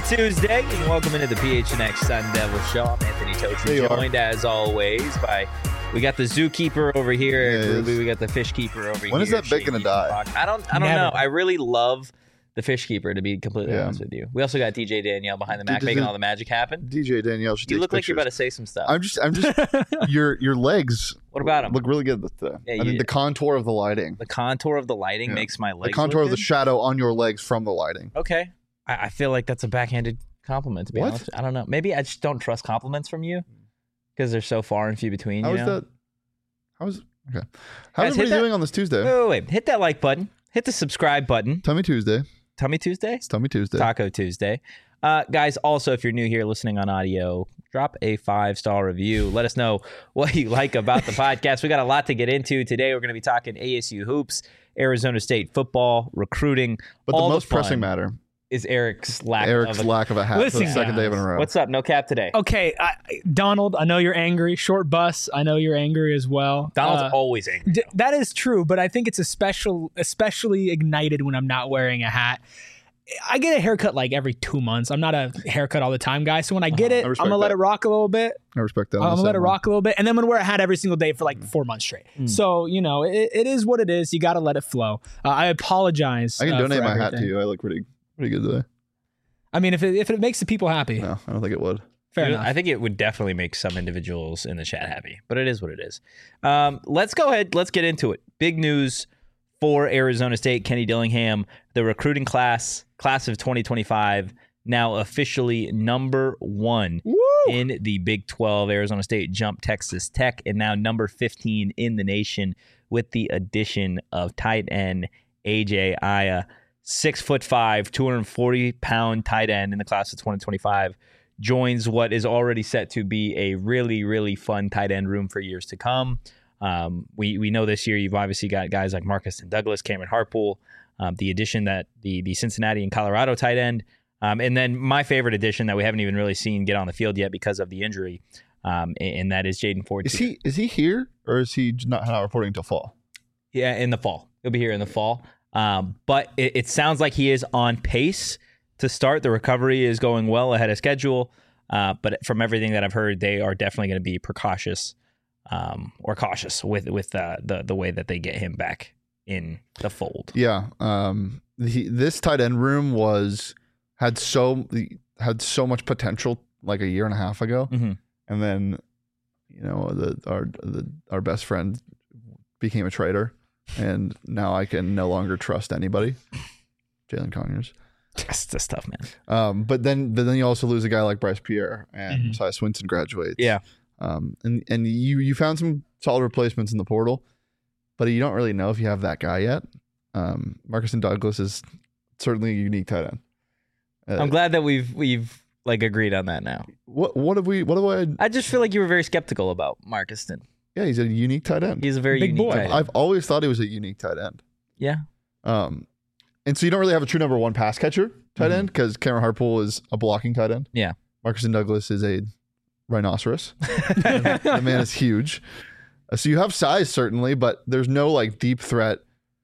Tuesday, and welcome into the PHNX Sun Devil Show. I'm Anthony Totri, joined as always by, we got the zookeeper over here, Eric Ruby, we got the fish keeper over here. When is that bit going to die? I don't know. I really love the fish keeper, to be completely honest with you. We also got DJ Danielle behind the Mac making all the magic happen. DJ Danielle should You look pictures. like you're about to say some stuff. I'm just your legs. What about them? Look really good today. Yeah, I mean, the contour of the lighting. The contour of the lighting makes my legs The contour look of the good? shadow on your legs from the lighting. Okay. I feel like that's a backhanded compliment, to be honest. I don't know. Maybe I just don't trust compliments from you because they're so far and few between. How is okay? How's everybody doing on this Tuesday? Wait. Hit that like button. Hit the subscribe button. Tummy Tuesday. Tummy Tuesday? It's Tummy Tuesday. Taco Tuesday. Guys, also, if you're new here listening on audio, drop a 5-star review. Let us know what you like about the podcast. We got a lot to get into today. We're going to be talking ASU hoops, Arizona State football, recruiting. But the most pressing matter is Eric's lack of a hat Listen, for the second day in a row. What's up? No cap today. Okay, Donald, I know you're angry. Short bus, I know you're angry as well. Donald's always angry. That is true, but I think it's especially ignited when I'm not wearing a hat. I get a haircut like every 2 months. I'm not a haircut all the time guy. So when I get it, I'm going to let it rock a little bit. I respect that. I'm going to let it rock a little bit. And then I'm going to wear a hat every single day for like 4 months straight. So, it is what it is. You got to let it flow. I apologize. I can donate my hat to you. I look pretty good today. I mean, if it makes the people happy. No, I don't think it would. Fair enough. I think it would definitely make some individuals in the chat happy, but it is what it is. Let's go ahead. Let's get into it. Big news for Arizona State. Kenny Dillingham, the recruiting class of 2025, now officially number 1 in the Big 12. Arizona State jumped Texas Tech and now number 15 in the nation with the addition of tight end AJ Aya. 6'5", 240-pound tight end in the class of 2025 joins what is already set to be a really, really fun tight end room for years to come. We know this year you've obviously got guys like Marcus and Douglas, Cameron Hartpool, the addition that the Cincinnati and Colorado tight end, and then my favorite addition that we haven't even really seen get on the field yet because of the injury, and that is Jaden Ford. Is he here or is he not reporting until fall? Yeah, in the fall. He'll be here in the fall. But it sounds like he is on pace to start. The recovery is going well ahead of schedule. But from everything that I've heard, they are definitely going to be cautious with the way that they get him back in the fold. Yeah. This tight end room had so much potential like a year and a half ago, and then our best friend became a traitor. And now I can no longer trust anybody. Jalen Conyers. That's tough, man. But then you also lose a guy like Bryce Pierre and Messiah Swinson graduates. Yeah. And you found some solid replacements in the portal, but you don't really know if you have that guy yet. Marcus and Douglas is certainly a unique tight end. I'm glad that we've like agreed on that now. What have I? I just feel like you were very skeptical about Marcuston. Yeah, he's a unique tight end. He's a very big unique boy. tight end. I've always thought he was a unique tight end. Yeah. And so you don't really have a true number 1 pass catcher tight end because Cameron Hartpool is a blocking tight end. Yeah. Marcus and Douglas is a rhinoceros. The man is huge. So you have size certainly, but there's no like deep threat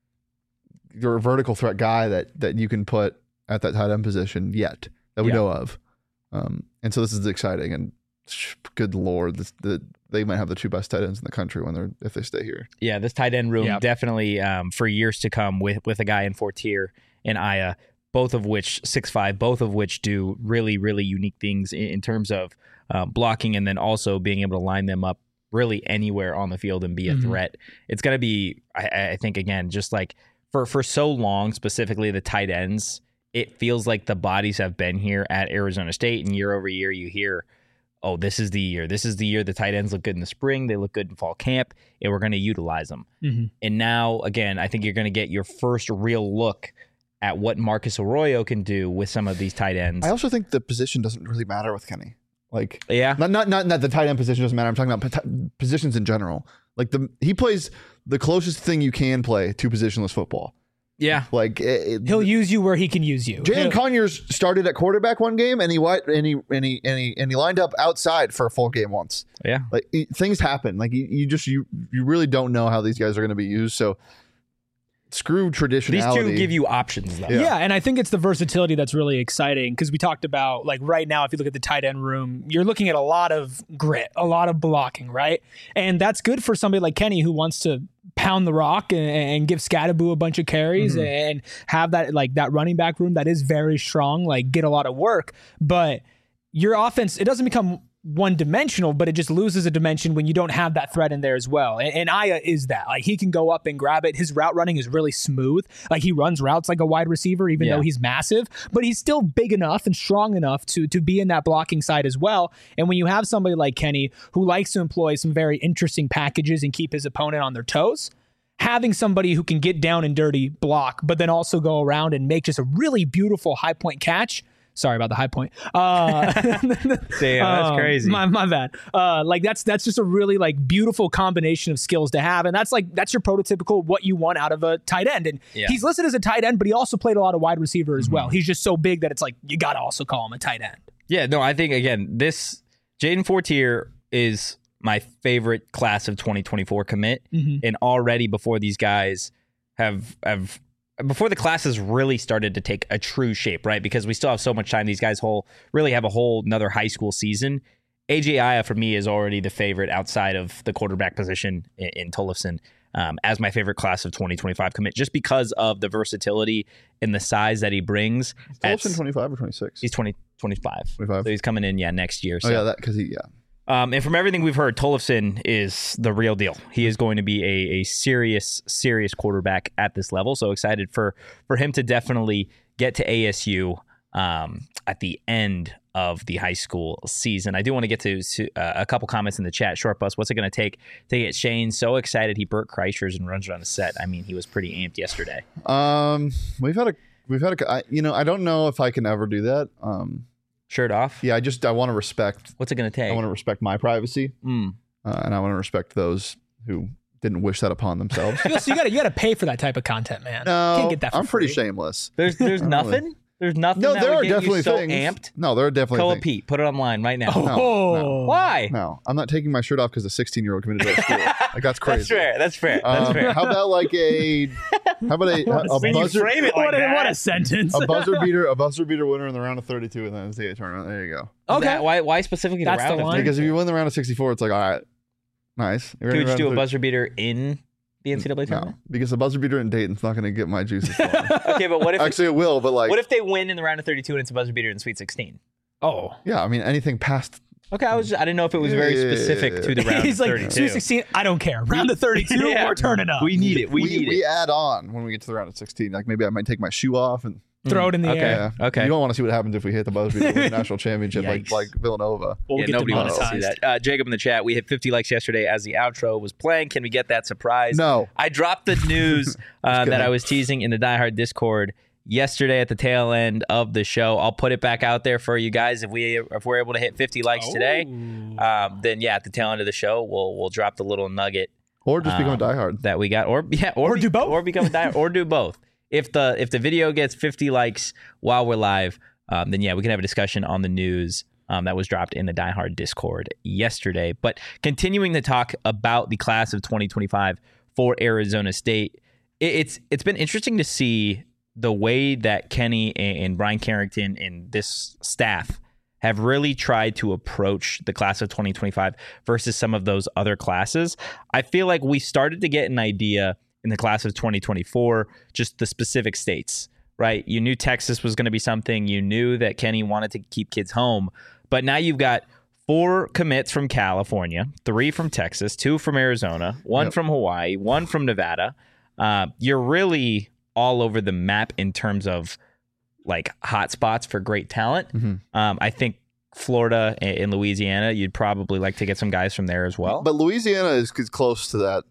or vertical threat guy that you can put at that tight end position yet that we know of. And so this is exciting and good Lord, they might have the 2 best tight ends in the country if they stay here. Yeah, this tight end room definitely for years to come with a guy in Fortier and Aya, both of which 6'5", both of which do really, really unique things in terms of blocking and then also being able to line them up really anywhere on the field and be a threat. It's going to be, I think, again, just like for so long, specifically the tight ends, it feels like the bodies have been here at Arizona State, and year over year you hear, oh, this is the year. This is the year the tight ends look good in the spring. They look good in fall camp, and we're going to utilize them. And now, again, I think you're going to get your first real look at what Marcus Arroyo can do with some of these tight ends. I also think the position doesn't really matter with Kenny. Like, yeah, not the tight end position doesn't matter. I'm talking about positions in general. Like he plays the closest thing you can play to positionless football. Yeah, like he'll use you where he can use you. Jalen Conyers started at quarterback one game, and he lined up outside for a full game once. Yeah, like things happen. Like you really don't know how these guys are going to be used. So screw traditionality. These two give you options, though. Yeah, and I think it's the versatility that's really exciting because we talked about, like, right now, if you look at the tight end room, you're looking at a lot of grit, a lot of blocking, right? And that's good for somebody like Kenny who wants to pound the rock and give Scatterboo a bunch of carries and have that, like, that running back room that is very strong, like, get a lot of work. But your offense, it doesn't become one-dimensional, but it just loses a dimension when you don't have that threat in there as well. And Aya is that. Like, he can go up and grab it. His route running is really smooth. Like, he runs routes like a wide receiver, even though he's massive, but he's still big enough and strong enough to be in that blocking side as well. And when you have somebody like Kenny who likes to employ some very interesting packages and keep his opponent on their toes, having somebody who can get down and dirty, block, but then also go around and make just a really beautiful high point catch. Sorry about the high point. Damn, that's crazy. My bad. Like that's just a really, like, beautiful combination of skills to have, and that's your prototypical what you want out of a tight end. And he's listed as a tight end, but he also played a lot of wide receiver as well. He's just so big that it's like you got to also call him a tight end. Yeah, no, I think again, this Jaden Fortier is my favorite class of 2024 commit, and already before these guys have. Before the classes really started to take a true shape, right? Because we still have so much time. These guys really have a whole another high school season. AJ Aya, for me, is already the favorite outside of the quarterback position in Tollefson as my favorite class of 2025 commit, just because of the versatility and the size that he brings. Tollefson 25 or 26? He's 25. 25. So he's coming in, next year. So. Oh, yeah, that because he. And from everything we've heard, Tollefson is the real deal. He is going to be a serious quarterback at this level. So excited for him to definitely get to ASU at the end of the high school season. I do want to get to a couple comments in the chat. Short Bus, what's it going to take to get Shane so excited he burnt Kreischer's and runs around the set? I mean, he was pretty amped yesterday. We've had I don't know if I can ever do that. Shirt off? Yeah, I want to respect. What's it going to take? I want to respect my privacy, and I want to respect those who didn't wish that upon themselves. So you got to pay for that type of content, man. No, you can't get that. I'm pretty free. shameless. There's nothing. There's nothing. No, that there would are get definitely you so things. Amped. No, there are definitely Koa things. Pete, put it online right now. Oh, Why? No, I'm not taking my shirt off because a 16-year-old committed to our school. Like that's crazy. That's fair. That's fair. How about a buzzer? Frame it like what a sentence. A buzzer beater winner in the round of 32 and then the NCAA tournament. There you go. Okay. Why specifically That's the round the of line. 32? Because if you win the round of 64, it's like, all right, nice. Could you do a buzzer beater in the NCAA tournament? No, because the buzzer beater in Dayton's not going to get my juices flowing. Okay, but what if Actually, it will, but what if they win in the round of 32 and it's a buzzer beater in Sweet 16? Oh. Yeah, I mean, anything past... Okay, I didn't know if it was very specific to the round He's of like, 32. Sweet 16, I don't care. Round of 32, we're turning up. We need it. We add on when we get to the round of 16. Like maybe I might take my shoe off and throw it in the air. Yeah. Okay. You don't want to see what happens if we hit the buzzer beater in the national championship like Villanova. We'll get nobody wants to see demonetized. that. Jacob in the chat, we hit 50 likes yesterday as the outro was playing. Can we get that surprise? No. I dropped the news that I was teasing in the Die Hard Discord yesterday at the tail end of the show. I'll put it back out there for you guys. If we're able to hit 50 likes today, then at the tail end of the show, we'll drop the little nugget. Or just become a diehard. That we got. Or do both. Or become a diehard. Or do both. If the video gets 50 likes while we're live, then we can have a discussion on the news that was dropped in the Die Hard Discord yesterday. But continuing to talk about the class of 2025 for Arizona State, it's been interesting to see the way that Kenny and Brian Carrington and this staff have really tried to approach the class of 2025 versus some of those other classes. I feel like we started to get an idea in the class of 2024, just the specific states, right? You knew Texas was going to be something. You knew that Kenny wanted to keep kids home. But now you've got 4 commits from California, 3 from Texas, 2 from Arizona, 1 from Hawaii, 1 from Nevada. You're really all over the map in terms of like hot spots for great talent. I think Florida and Louisiana, you'd probably like to get some guys from there as well. But Louisiana is close to that,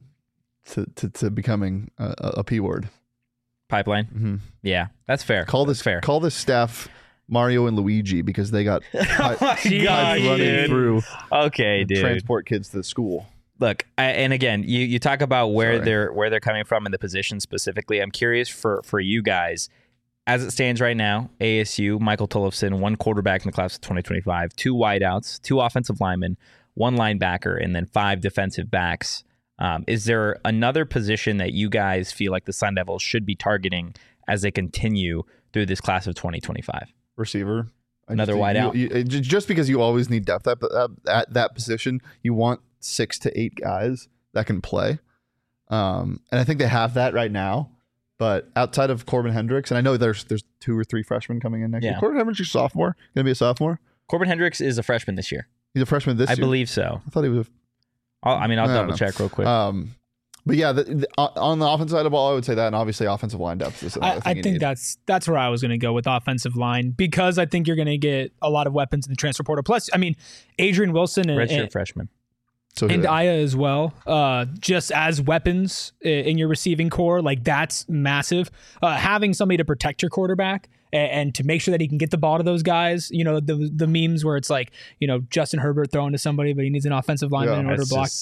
to becoming a P word. Pipeline? Yeah, that's fair. Call this staff Mario and Luigi because they got pipes running through. Okay, dude. Transport kids to the school. Look, and again, you talk about where they're coming from in the position specifically. I'm curious for you guys, as it stands right now, ASU, Michael Tollefson, 1 quarterback in the class of 2025, 2 wideouts, 2 offensive linemen, 1 linebacker, and then 5 defensive backs. Is there another position that you guys feel like the Sun Devils should be targeting as they continue through this class of 2025? Receiver. Another wideout? Just because you always need depth at that position, you want 6 to 8 guys that can play. And I think they have that right now. But outside of Corbin Hendricks, and I know there's 2 or 3 freshmen coming in next year. Corbin Hendricks is a sophomore. Going to be a sophomore? Corbin Hendricks is a freshman this year. He's a freshman this year? I believe so. I thought he was I'll double check real quick. But yeah, on the offensive side of the ball, I would say that, and obviously offensive line depth is another thing I think that's where I was going to go with offensive line, because I think you're going to get a lot of weapons in the transfer portal. Plus, I mean, Adrian Wilson redshirt freshman. And Aya as well, just as weapons in your receiving core, like that's massive. Having somebody to protect your quarterback and to make sure that he can get the ball to those guys. You know, the memes where it's like, you know, Justin Herbert throwing to somebody, but he needs an offensive lineman in order to block.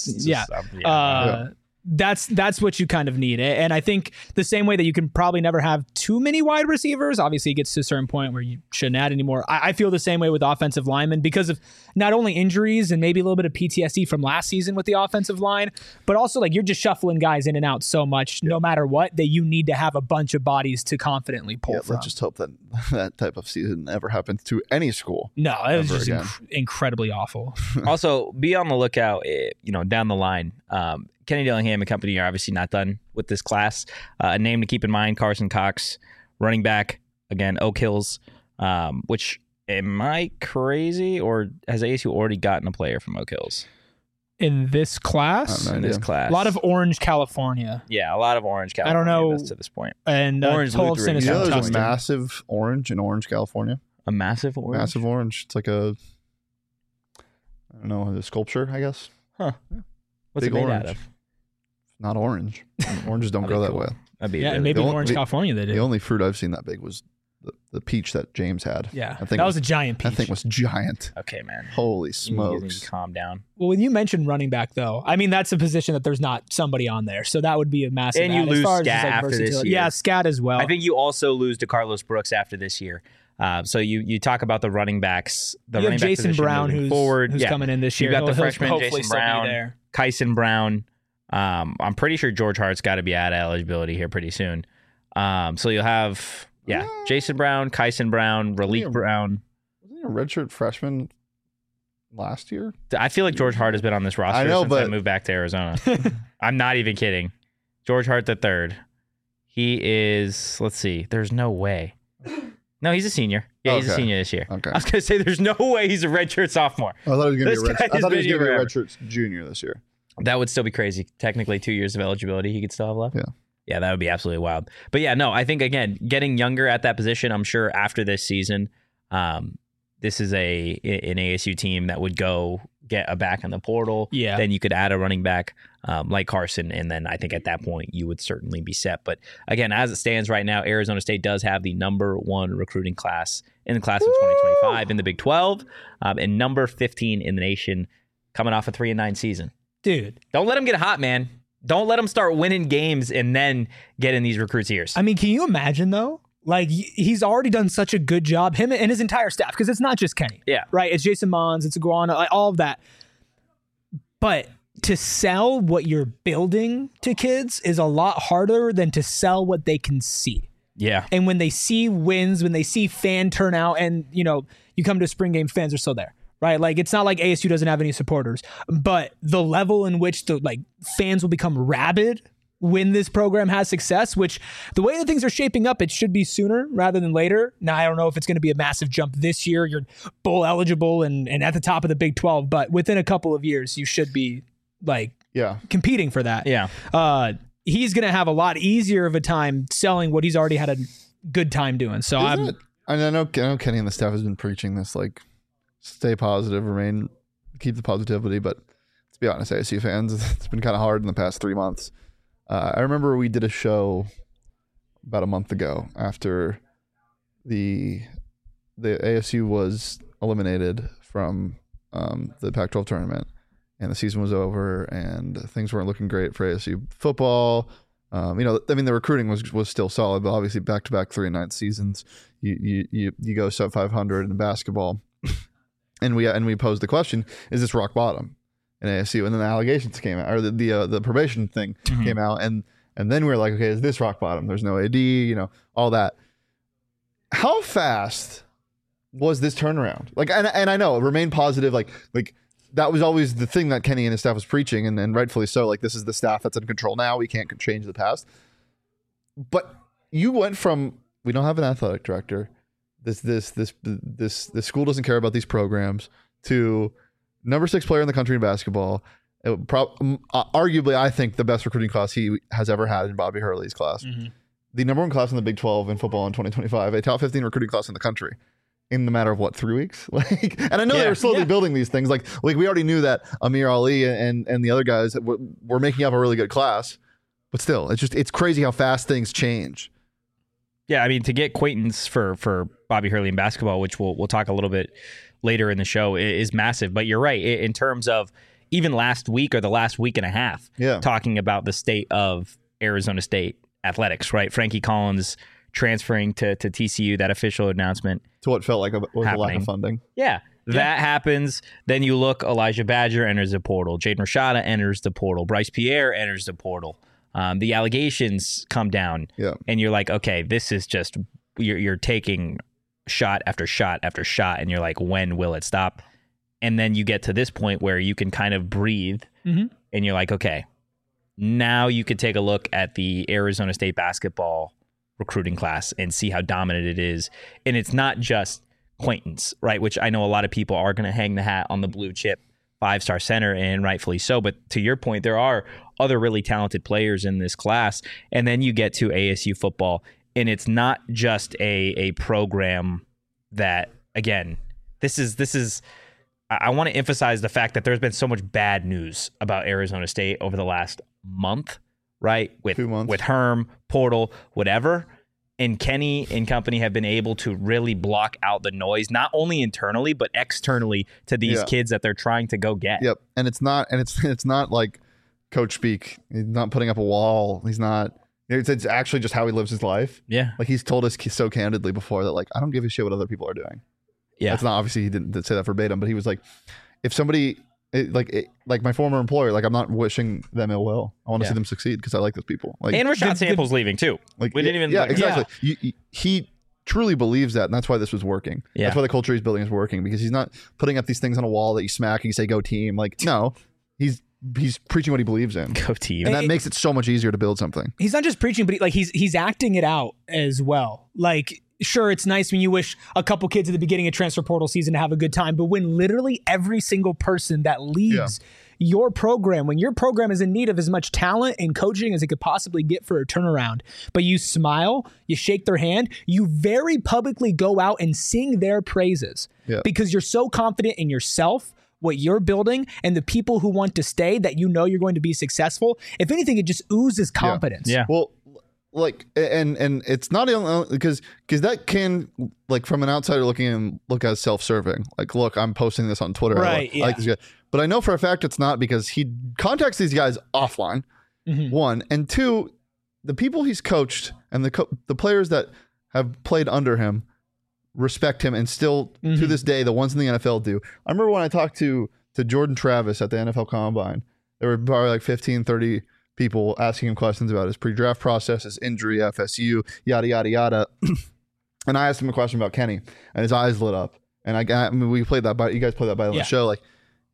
That's what you kind of need. And I think the same way that you can probably never have too many wide receivers, obviously it gets to a certain point where you shouldn't add anymore. I feel the same way with offensive linemen because of not only injuries and maybe a little bit of PTSD from last season with the offensive line, but also like you're just shuffling guys in and out so much, no matter what, that you need to have a bunch of bodies to confidently pull from. Let's just hope that that type of season never happens to any school. No, it was just incredibly awful. Also, be on the lookout, down the line. Kenny Dillingham and company are obviously not done with this class. A name to keep in mind, Carson Cox, running back, again, Oak Hills, which, am I crazy, or has ASU already gotten a player from Oak Hills? In this class? In this class. A lot of Orange, California. Yeah, a lot of Orange, California. I don't know. To this point. And Orange Tolson is there's a massive orange in Orange, California. A massive orange? Massive orange. It's like a sculpture, I guess. Huh. Yeah. What's Big it made orange. out of? Not orange. Oranges don't grow that cool. way. Maybe in Orange, California they did. The only fruit I've seen that big was the peach that James had. Yeah, that was a giant peach. That thing was giant. Okay, man. Holy You smokes. need to calm down. Well, when you mentioned running back, though, I mean, that's a position that there's not somebody on there. So that would be a massive And you add. lose As far as Scat just, like, after this versatility. year. Yeah, Scat as well. I think you also lose to Carlos Brooks after this year. So you talk about the running backs. You have Jason Brown, who's coming in this year. You got the He'll freshman hopefully Jason Brown, there. Kyson Brown. I'm pretty sure George Hart's got to be out of eligibility here pretty soon. So you'll have Jason Brown, Kyson Brown, Raleek Brown. Wasn't he a redshirt freshman last year? I feel like George Hart has been on this roster since I moved back to Arizona. I'm not even kidding. George Hart the third. He is. Let's see. There's no way. No, he's a senior. Yeah, he's a senior this year. Okay. I was gonna say there's no way he's a redshirt sophomore. I thought he was This going guy to be has been a here forever. redshirt junior this year. That would still be crazy. Technically, 2 years of eligibility he could still have left. Yeah. Yeah, that would be absolutely wild. But yeah, no, I think, again, getting younger at that position, I'm sure after this season, this is an ASU team that would go get a back in the portal. Yeah. Then you could add a running back like Carson, and then I think at that point you would certainly be set. But again, as it stands right now, Arizona State does have the number 1 recruiting class in the class of 2025 in the Big 12, and number 15 in the nation, coming off a 3-9 season. Dude. Don't let them get hot, man. Don't let them start winning games and then get in these recruits' ears. I mean, can you imagine, though? Like, he's already done such a good job, him and his entire staff, because it's not just Kenny. Yeah. Right? It's Jason Mons, it's Iguana, like, all of that. But to sell what you're building to kids is a lot harder than to sell what they can see. Yeah. And when they see wins, when they see fan turnout, and, you come to a spring game, fans are still there. Right, like it's not like ASU doesn't have any supporters, but the level in which the fans will become rabid when this program has success, which the way that things are shaping up, it should be sooner rather than later. Now, I don't know if it's going to be a massive jump this year. You're bowl eligible and at the top of the Big 12, but within a couple of years, you should be competing for that. Yeah. He's going to have a lot easier of a time selling what he's already had a good time doing. So I know Kenny and the staff has been preaching this, stay positive, keep the positivity. But let's be honest, ASU fans, it's been kind of hard in the past 3 months. I remember we did a show about a month ago after the ASU was eliminated from the Pac-12 tournament, and the season was over, and things weren't looking great for ASU football. The recruiting was still solid, but obviously back-to-back 3-9 seasons, you go sub 500 in basketball. And we posed the question, is this rock bottom? in ASU, and then the allegations came out, or the probation thing came out, and then we were like, okay, is this rock bottom? There's no AD, all that. How fast was this turnaround? Like, and I know remain positive, like that was always the thing that Kenny and his staff was preaching, and rightfully so. Like, this is the staff that's in control now. We can't change the past. But you went from, we don't have an athletic director, this school doesn't care about these programs, to number 6 player in the country in basketball. Arguably, I think the best recruiting class he has ever had in Bobby Hurley's class. The number 1 class in the Big 12 in football in 2025, a top 15 recruiting class in the country in the matter of 3 weeks. And I know they were slowly building these things. Like we already knew that Amir Ali and the other guys were making up a really good class, but still, it's crazy how fast things change. Yeah, I mean, to get Quaintance for Bobby Hurley in basketball, which we'll talk a little bit later in the show, is massive. But you're right, in terms of even last week or the last week and a half, talking about the state of Arizona State athletics, right? Frankie Collins transferring to TCU, that official announcement. To what felt like was a lack of funding. Yeah. That happens. Then you look, Elijah Badger enters the portal. Jaden Rashada enters the portal. Bryce Pierre enters the portal. The allegations come down, and you're like, okay, this is just, you're taking shot after shot after shot, and you're like, when will it stop? And then you get to this point where you can kind of breathe, and you're like, okay, now you could take a look at the Arizona State basketball recruiting class and see how dominant it is. And it's not just Quaintance, right? Which I know a lot of people are going to hang the hat on the blue chip 5-star center, and rightfully so. But to your point, there are other really talented players in this class. And then you get to ASU football, and it's not just a program that, again, this is I want to emphasize the fact that there's been so much bad news about Arizona State over the last month, right? With 2 months. With Herm, portal, whatever. And Kenny and company have been able to really block out the noise, not only internally, but externally to these kids that they're trying to go get. Yep. And it's not like coach speak. He's not putting up a wall. He's not, it's actually just how he lives his life. Yeah. Like, he's told us so candidly before that, like, I don't give a shit what other people are doing. Yeah. It's not, obviously he didn't say that verbatim, but he was like, if somebody, like my former employer, like, I'm not wishing them ill will. I want to see them succeed because I like those people. Like, and Rashad Sample's leaving too. Like, we didn't even. Yeah, exactly. He truly believes that, and that's why this was working. Yeah. That's why the culture he's building is working, because he's not putting up these things on a wall that you smack and you say go team. Like, no, he's preaching what he believes in. Go team. And that makes it so much easier to build something. He's not just preaching, but he's acting it out as well. Like, sure, it's nice when you wish a couple kids at the beginning of transfer portal season to have a good time, but when literally every single person that leaves your program, when your program is in need of as much talent and coaching as it could possibly get for a turnaround, but you smile, you shake their hand, you very publicly go out and sing their praises because you're so confident in yourself, what you're building, and the people who want to stay, that you know you're going to be successful. If anything, it just oozes confidence. Yeah. Well, like, and it's not because that can, like, from an outsider looking in, look as self-serving. Like, look, I'm posting this on Twitter. Right. I like this guy. But I know for a fact it's not, because he contacts these guys offline, one, and two, the people he's coached and the players that have played under him respect him, and still to this day, the ones in the NFL do. I remember when I talked to Jordan Travis at the NFL Combine, there were probably like 15, 30 people asking him questions about his pre-draft process, his injury, FSU, yada, yada, yada. And I asked him a question about Kenny, and his eyes lit up. And I mean, we played that by, you guys played that by on the show. Like,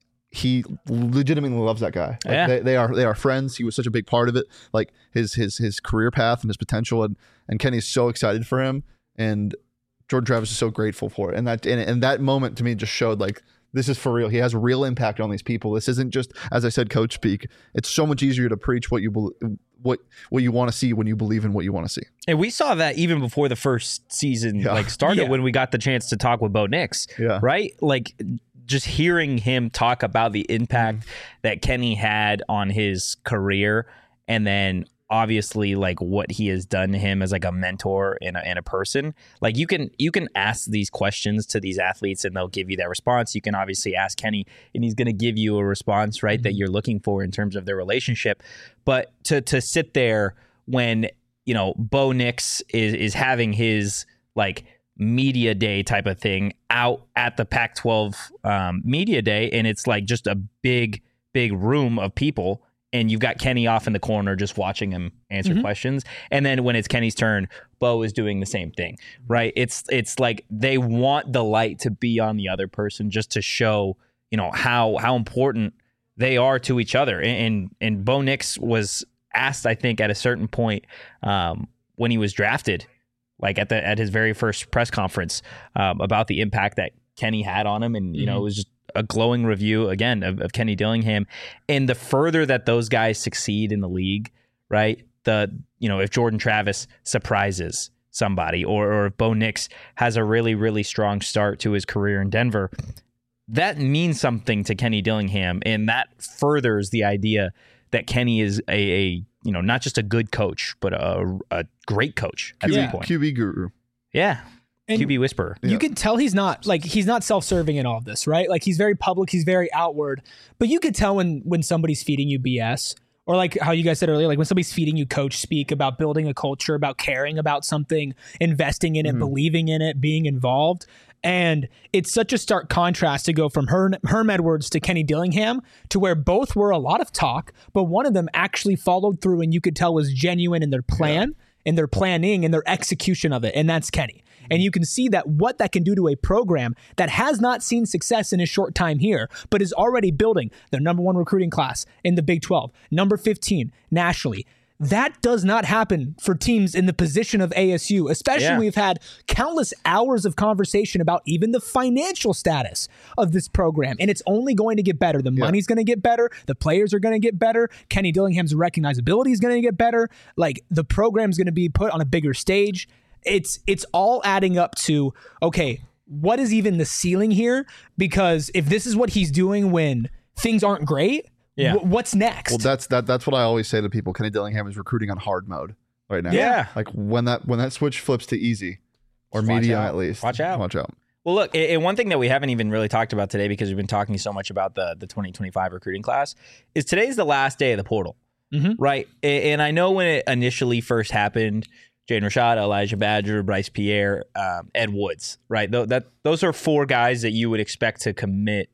he legitimately loves that guy. Like, they are friends. He was such a big part of it. Like, his career path and his potential, and Kenny's so excited for him, and Jordan Travis is so grateful for it. And that moment to me just showed, like, this is for real. He has real impact on these people. This isn't just, as I said, coach speak. It's so much easier to preach what you want to see when you believe in what you want to see. And we saw that even before the first season started, when we got the chance to talk with Bo Nix, right? Like, just hearing him talk about the impact that Kenny had on his career, and then obviously, like, what he has done to him as, like, a mentor and a person. Like, you can ask these questions to these athletes and they'll give you that response. You can obviously ask Kenny and he's going to give you a response, right, that you're looking for in terms of their relationship. But to sit there when, you know, Bo Nix is having his, like, media day type of thing out at the Pac-12 media day, and it's like just a big big room of people, and you've got Kenny off in the corner just watching him answer questions. And then when it's Kenny's turn, Bo is doing the same thing, right? It's like they want the light to be on the other person just to show, how important they are to each other. And Bo Nix was asked, I think, at a certain point when he was drafted, like at his very first press conference, about the impact that Kenny had on him. And, it was just a glowing review, again, of Kenny Dillingham. And the further that those guys succeed in the league, right, if Jordan Travis surprises somebody or if Bo Nix has a really, really strong start to his career in Denver, that means something to Kenny Dillingham. And that furthers the idea that Kenny is a not just a good coach, but a great coach at some point. QB guru. Yeah. And QB whisperer. You can tell he's not self-serving in all of this, right? Like he's very public, he's very outward, but you could tell when somebody's feeding you BS, or like how you guys said earlier, like when somebody's feeding you coach speak about building a culture, about caring about something, investing in it, believing in it, being involved. And it's such a stark contrast to go from Herm Edwards to Kenny Dillingham, to where both were a lot of talk, but one of them actually followed through and you could tell was genuine in their plan, in their planning, and their execution of it. And that's Kenny. And you can see that what that can do to a program that has not seen success in a short time here, but is already building the number 1 recruiting class in the Big 12, number 15 nationally. That does not happen for teams in the position of ASU, especially we've had countless hours of conversation about even the financial status of this program. And it's only going to get better. The money's going to get better. The players are going to get better. Kenny Dillingham's recognizability is going to get better. Like the program's going to be put on a bigger stage. It's all adding up to, okay, what is even the ceiling here? Because if this is what he's doing when things aren't great, what's next? Well, that's what I always say to people. Kenny Dillingham is recruiting on hard mode right now. Yeah. Like when that switch flips to easy or medium at least. Watch out. Well, look, and one thing that we haven't even really talked about today, because we've been talking so much about the 2025 recruiting class, is today's the last day of the portal, right? And I know when it initially first happened, Jaden Rashad, Elijah Badger, Bryce Pierre, Ed Woods, right? Those are 4 guys that you would expect to commit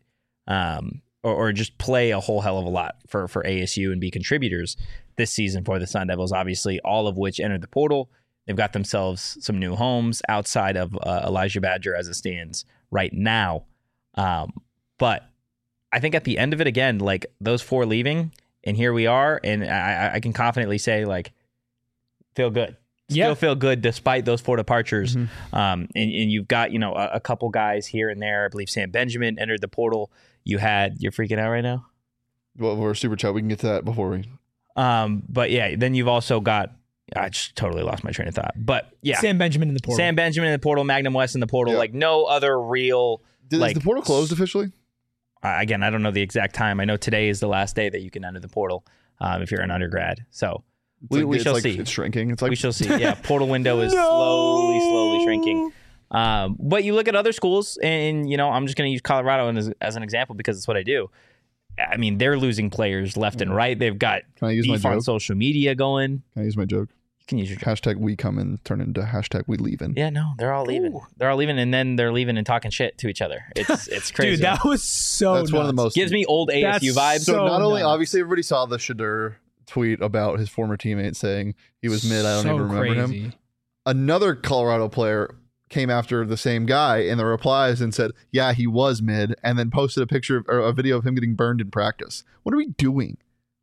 or just play a whole hell of a lot for ASU and be contributors this season for the Sun Devils, obviously, all of which entered the portal. They've got themselves some new homes outside of Elijah Badger as it stands right now. But I think at the end of it, again, like those 4 leaving, and here we are, and I can confidently say, like, feel good. Still feel good despite those 4 departures. And you've got, a couple guys here and there. I believe Sam Benjamin entered the portal. You're freaking out right now? Well, we're super chat. We can get to that before we. But yeah, then you've also got, I just totally lost my train of thought. But yeah. Sam Benjamin in the portal. Magnum West in the portal. Like no other real. Is the portal closed officially? Again, I don't know the exact time. I know today is the last day that you can enter the portal if you're an undergrad. So. We shall see. It's shrinking. It's like we shall see. Yeah, portal window is slowly shrinking. But you look at other schools, and I'm just going to use Colorado as an example because it's what I do. I mean, they're losing players left and right. They've got beef on social media going. Can I use my joke? You can use your joke. Hashtag we come and turn into hashtag we leaving. Yeah, no, they're all leaving. Ooh. They're all leaving, and then they're leaving and talking shit to each other. It's crazy. Dude, that was so. That's nuts. One of the most. Gives me old ASU vibes. So not only obviously everybody saw the Shedeur tweet about his former teammate saying he was mid. I don't even remember him. Another Colorado player came after the same guy in the replies and said, yeah, he was mid, and then posted a picture or a video of him getting burned in practice. What are we doing?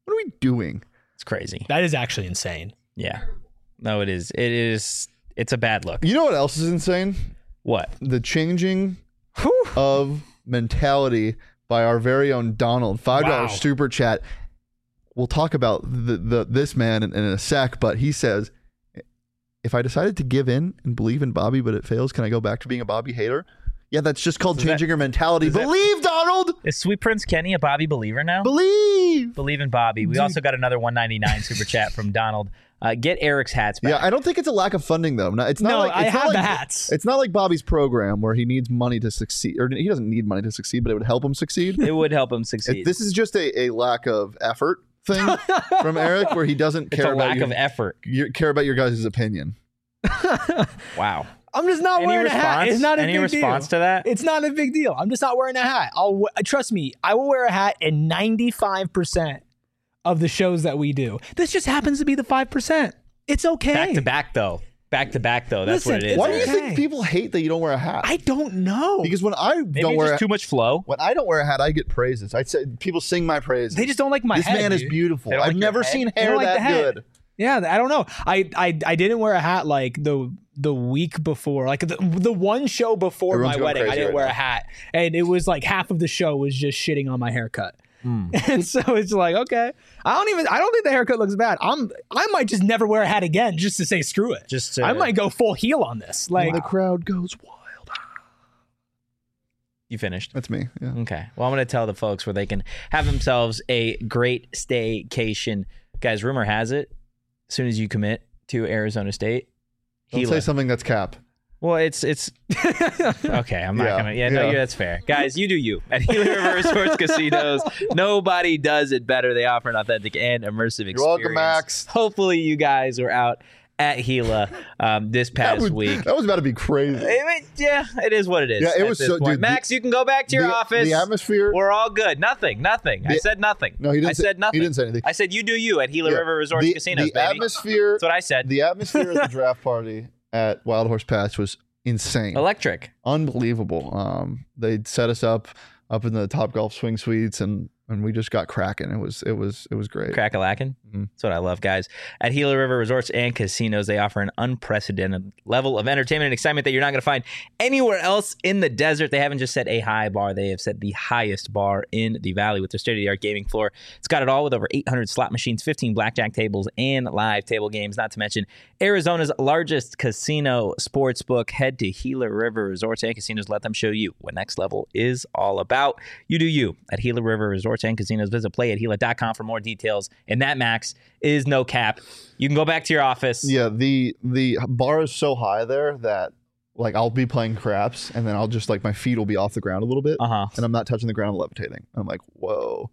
It's crazy. That is actually insane. Yeah. No, it is. It's a bad look. You know what else is insane? What? The changing of mentality by our very own Donald. $5 super chat. We'll talk about this man in a sec, but he says, if I decided to give in and believe in Bobby, but it fails, can I go back to being a Bobby hater? Yeah, that's just called changing your mentality. Believe, Donald! Is Sweet Prince Kenny a Bobby believer now? Believe in Bobby. We also got another $1.99 super chat from Donald. Get Eric's hats back. Yeah, I don't think it's a lack of funding, though. I have the hats. It's not like Bobby's program where he needs money to succeed, or he doesn't need money to succeed, but it would help him succeed. It would help him succeed. This is just a lack of effort thing from Eric, where he doesn't care about lack of effort. Care about your guys' opinion. Wow. I'm just not Any wearing a hat. response? It's not a Any big response deal. to that? It's not a big deal. I'm just not wearing a hat. Trust me, I will wear a hat in 95% of the shows that we do. This just happens to be the 5%. It's okay. Back to back though. That's Listen, what it is. it's Why do you okay. think people hate that you don't wear a hat? I don't know. Because when I Maybe don't it's wear just too much flow. when I don't wear a hat, I get praises. I say people sing my praises. They just don't like my this head. man is dude. beautiful. They don't I've like your never head? seen They hair don't like the that head. good. Yeah, I don't know. I didn't wear a hat like the week before, like the one show before Everyone's my going wedding. I crazy didn't right wear now. a hat, and it was like half of the show was just shitting on my haircut. Hmm. And so it's like, okay, I don't think the haircut looks bad. I might just never wear a hat again just to say screw it. I might go full heel on this. Like, And the crowd goes wild. You finished. That's me. Yeah. Okay. Well, I'm going to tell the folks where they can have themselves a great staycation. Guys, rumor has it, as soon as you commit to Arizona State, Don't say something that's cap. well, it's okay. I'm not Yeah, gonna. yeah. No, that's fair. Guys, you do you at Gila River Resorts Casinos. Nobody does it better. They offer an authentic and immersive experience. You're welcome, Max. Hopefully, you guys were out at Gila this past week. That was about to be crazy. Yeah, it is what it is. Yeah, it at was this so- point. dude, Max, you can go back to your office. The atmosphere. We're all good. Nothing. I said nothing. No, he didn't. I said nothing. He didn't say anything. I said you do you at Gila Yeah. River Resorts Casinos, the baby. atmosphere. That's what I said. The atmosphere at the draft party at Wild Horse Pass was insane, Electric. unbelievable. They set us up in the Top Golf Swing Suites, and we just got cracking. It was great. Crack-a-lackin'. Mhm. That's what I love, guys. At Gila River Resorts and Casinos, they offer an unprecedented level of entertainment and excitement that you're not going to find anywhere else in the desert. They haven't just set a high bar. They have set the highest bar in the valley with their state-of-the-art gaming floor. It's got it all with over 800 slot machines, 15 blackjack tables, and live table games, not to mention Arizona's largest casino sports book. Head to Gila River Resorts and Casinos. Let them show you what next level is all about. You do you at Gila River Resorts and Casinos. Visit playatgila.com for more details. And that, Max, is no cap. You can go back to your office. Yeah, the bar is so high there that like I'll be playing craps, and then I'll just like my feet will be off the ground a little bit, and I'm not touching the ground, levitating. I'm like, whoa.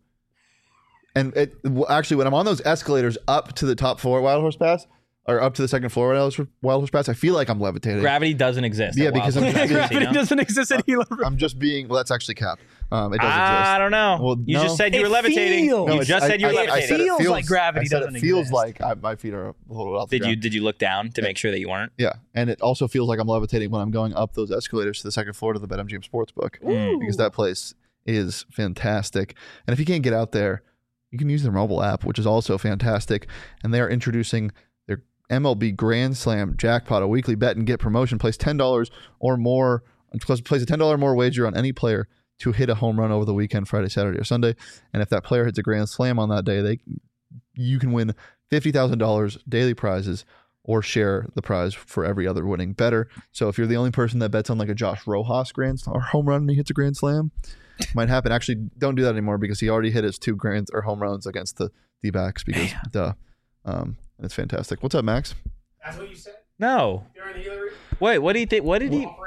And actually, when I'm on those escalators up to the top floor at Wild Horse Pass, or up to the second floor at Wild Horse Pass, I feel like I'm levitating. Gravity doesn't exist. Yeah, at because Wild I'm Horse just- Casino. Gravity doesn't exist at Gila River. I'm just being. Well, that's actually cap. It doesn't I exist. don't know. Well, you no. just said you were It levitating. feels- You it's- just said you were I levitating. said it Feels like gravity I said doesn't it feels exist. like my feet are a little off the ground. Did you look down to make sure that you weren't? Yeah, and it also feels like I'm levitating when I'm going up those escalators to the second floor to the BetMGM Sportsbook, because that place is fantastic. And if you can't get out there, you can use their mobile app, which is also fantastic. And they are introducing their MLB Grand Slam jackpot, a weekly bet and get promotion. Place $10 or more. Place a $10 or more wager on any player to hit a home run over the weekend, Friday, Saturday, or Sunday. And if that player hits a grand slam on that day, you can win $50,000 daily prizes or share the prize for every other winning bettor. So if you're the only person that bets on like a Josh Rojas grand or home run and he hits a grand slam, might happen. Actually, don't do that anymore because he already hit his 2 grand or home runs against the D-backs because it's fantastic. What's up, Max? That's what you said No. during the Gila River. Wait, what do you think? What did he?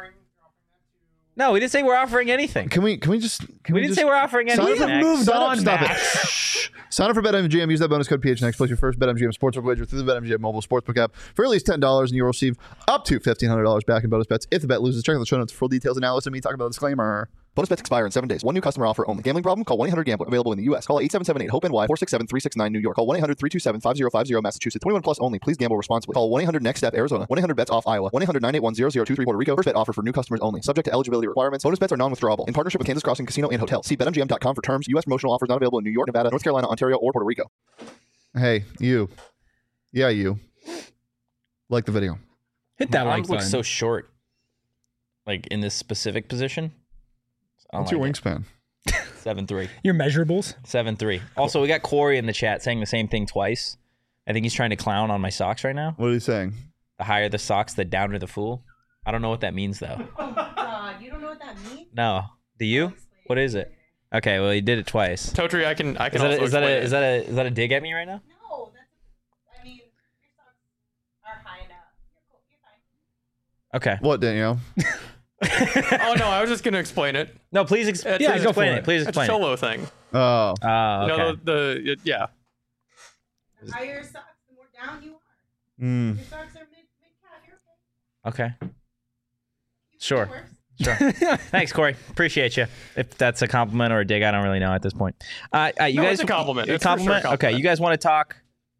No, we didn't say we're offering anything. Can we just We didn't say we're offering Sign anything. up- Max. moved Sign up, on, stop Max. it. Shh. Sign up for BetMGM. Use that bonus code PHNX. Place your first BetMGM Sportsbook wager through the BetMGM mobile sportsbook app for at least $10, and you'll receive up to $1,500 back in bonus bets if the bet loses. Check out the show notes for full details and now listen to me talk about the disclaimer. Bonus bets expire in 7 days. One new customer offer only. Gambling problem? Call 1-800-GAMBLER. Available in the U.S. Call 877-8-HOPE-NY 467-369 New York. Call 1-800-327-5050 Massachusetts. 21 plus only. Please gamble responsibly. Call 1-800-NEXT-STEP Arizona. 1-800-BETS-OFF Iowa. 1-800-981-0023 Puerto Rico. First bet offer for new customers only. Subject to eligibility requirements. Bonus bets are non-withdrawable. In partnership with Kansas Crossing Casino and Hotel. See BetMGM.com for terms. U.S. promotional offers not available in New York, Nevada, North Carolina, Ontario, or Puerto Rico. Hey, you. Yeah, you. Like the video. Hit that My like arms look button. so short. Like in this specific position. I don't What's your like wingspan? it. 7'3". Your measurables. 7'3". Also, we got Corey in the chat saying the same thing twice. I think he's trying to clown on my socks right now. What are you saying? The higher the socks, the downer the fool. I don't know what that means though. Oh God, you don't know what that means? No. Do you? What is it? Okay, well he did it twice. Totri, I can Is also that explain it. is that a dig at me right now? No, I mean, your socks are high enough. You're cool. You're fine. Okay. What, Danielle? Oh no, I was just gonna explain it. No, please It's yeah, a- go explain it. Please It's a explain it. solo thing. Oh. Oh, You okay. know yeah. The higher your socks, the more down you are. Mm. Your socks are mid calf. You're okay. Okay. Sure. Sure. Thanks, Corey. Appreciate you. If that's a compliment or a dig, I don't really know at this point. You No, guys, it's a compliment. A It's for sure a compliment? Okay, compliment. you guys want to talk?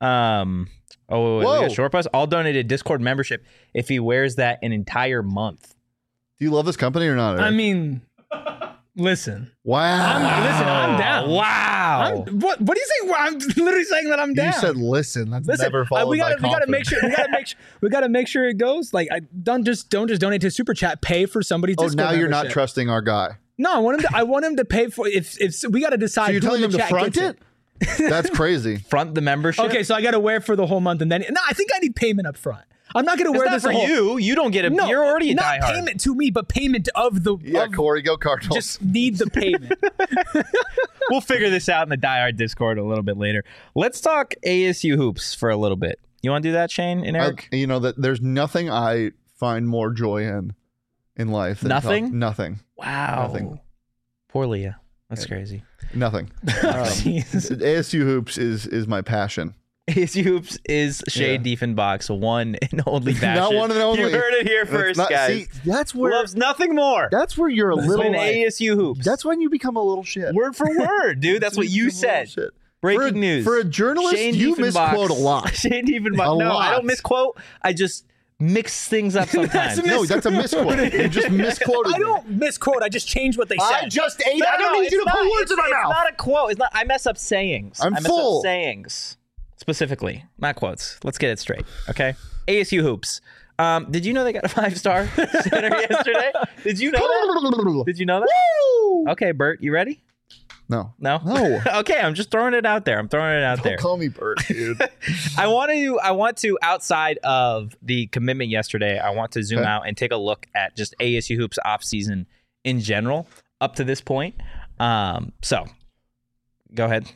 We Whoa. got Short Bus. I'll donate a Discord membership if he wears that an entire month. Do you love this company or not? Eric? I mean, listen. wow. I'm down. Wow. What do you say? I'm literally saying that I'm down. You said listen. That's Listen, never followed we by gotta make sure we gotta make sure it goes. Like, don't just donate to Super Chat. Pay for somebody's. Oh, Discord now you're not membership. trusting our guy. No, I want him to pay for. If we gotta decide. So you're who telling in him the to chat front gets it? That's crazy. Front the membership. Okay, so I gotta wear for the whole month, and then no, I think I need payment up front. I'm not gonna It's wear not this for the whole, you. You don't get it. No, You're already a not diehard. payment to me, but payment of the. Yeah, of, Corey, go Cardinals. just need the payment. We'll figure this out in the diehard Discord a little bit later. Let's talk ASU hoops for a little bit. You want to do that, Shane and Eric? You know that there's nothing I find more joy in life. Than Nothing? nothing. Wow. Nothing. Poor Leah. That's crazy. Nothing. Jesus. ASU hoops is my passion. ASU hoops is Shea Diefenbach's one and only passion. Not one and only. You heard it here That's first, not- guys. see, that's where Loves nothing more that's where you're a little. than like- ASU hoops. that's when you become a little shit. word for word, dude. That's what you become a little said. shit. Breaking news. For a journalist, Shane you Diefenbach- misquote a lot. Shane Diefenbach. A No, I lot. don't misquote. I just mix things up sometimes. No, that's a misquote. You just misquoted. I me. don't misquote. I just change what they I said. just ate. No, I don't no, need you to it's put not- words in my it's mouth. not a quote. It's not. I mess up sayings. I'm I mess full. up sayings specifically, not quotes. Let's get it straight, okay? ASU hoops. Did you know they got a 5-star center yesterday? Did you know that? Did you know that? Woo! Okay, Bert, you ready? No. No. No. Okay, I'm just throwing it out there. I'm throwing it out there. Don't call me Bert, dude. I want to outside of the commitment yesterday, I want to zoom Okay. out and take a look at just ASU hoops off season in general up to this point. So go ahead.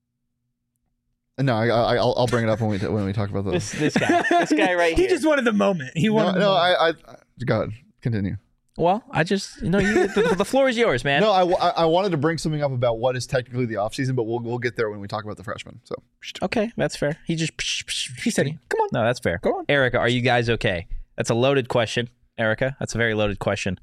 No, I'll bring it up when we talk about those. This guy right He here. just wanted the moment. He No, wanted. no, I go ahead. Continue. Well, I just the floor is yours, man. No, I wanted to bring something up about what is technically the offseason, but we'll get there when we talk about the freshmen. So Okay, that's fair. He said, "Come on." No, that's fair. Go on. Erica. Are you guys okay? That's a loaded question, Erica. That's a very loaded question.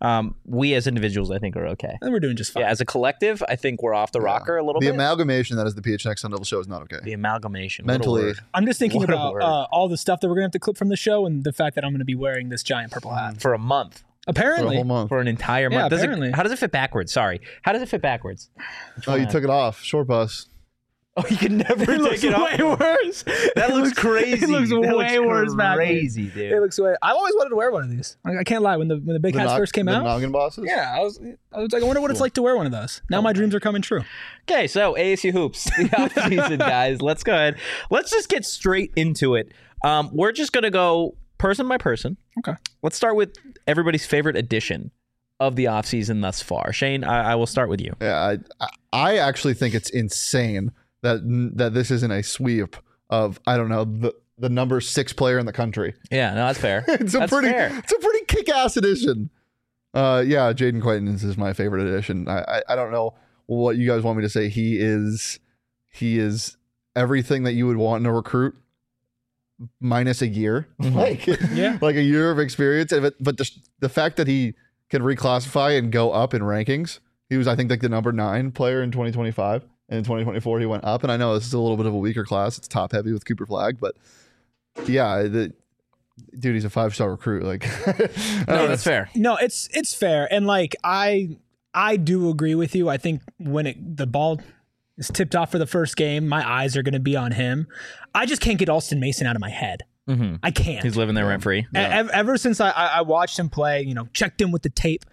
We as individuals, I think, are okay. And we're doing just fine. Yeah, as a collective, I think we're off the rocker a little the bit. amalgamation that is the PHNX Sun Devil show is not okay. The amalgamation. What a Mentally, word. I'm just thinking What a about word. all the stuff that we're gonna have to clip from the show, and the fact that I'm gonna be wearing this giant purple hat. For a month. for a Apparently, whole month. For an entire Yeah, month. apparently. How does it fit backwards? Sorry. How does it fit backwards? Oh, you took it off. Short bus. Oh, you can never take it off. way worse. That looks crazy. It looks That way worse back. Crazy, dude. It looks way. I've always wanted to wear one of these. I can't lie. When the big hats first came the out, Noggin bosses. yeah, I was like, I wonder what it's like to wear one of those. Now my dreams are coming true. Okay, so ASU hoops, the offseason, guys. Let's go ahead. Let's just get straight into it. We're just gonna go person by person. Okay. Let's start with everybody's favorite edition of the offseason thus far. Shane, I will start with you. Yeah, I actually think it's insane that this isn't a sweep of I don't know the number 6 player in the country. Yeah, no, that's fair. It's a That's pretty fair. it's a pretty kick-ass edition. Yeah, Jaden Quaintance is my favorite edition. I don't know what you guys want me to say. He is everything that you would want in a recruit minus a year. Like Yeah. like a year of experience. But the fact that he can reclassify and go up in rankings. He was, I think, like the number 9 player in 2025. And in 2024, he went up. And I know this is a little bit of a weaker class. It's top heavy with Cooper Flag. But yeah, dude, he's a 5-star recruit. Like, I don't No, know. that's fair. No, it's fair, and like I do agree with you. I think when the ball is tipped off for the first game, my eyes are going to be on him. I just can't get Alston Mason out of my head. Mm-hmm. I can't. He's living there rent free. Ever since I watched him play, checked in with the tape,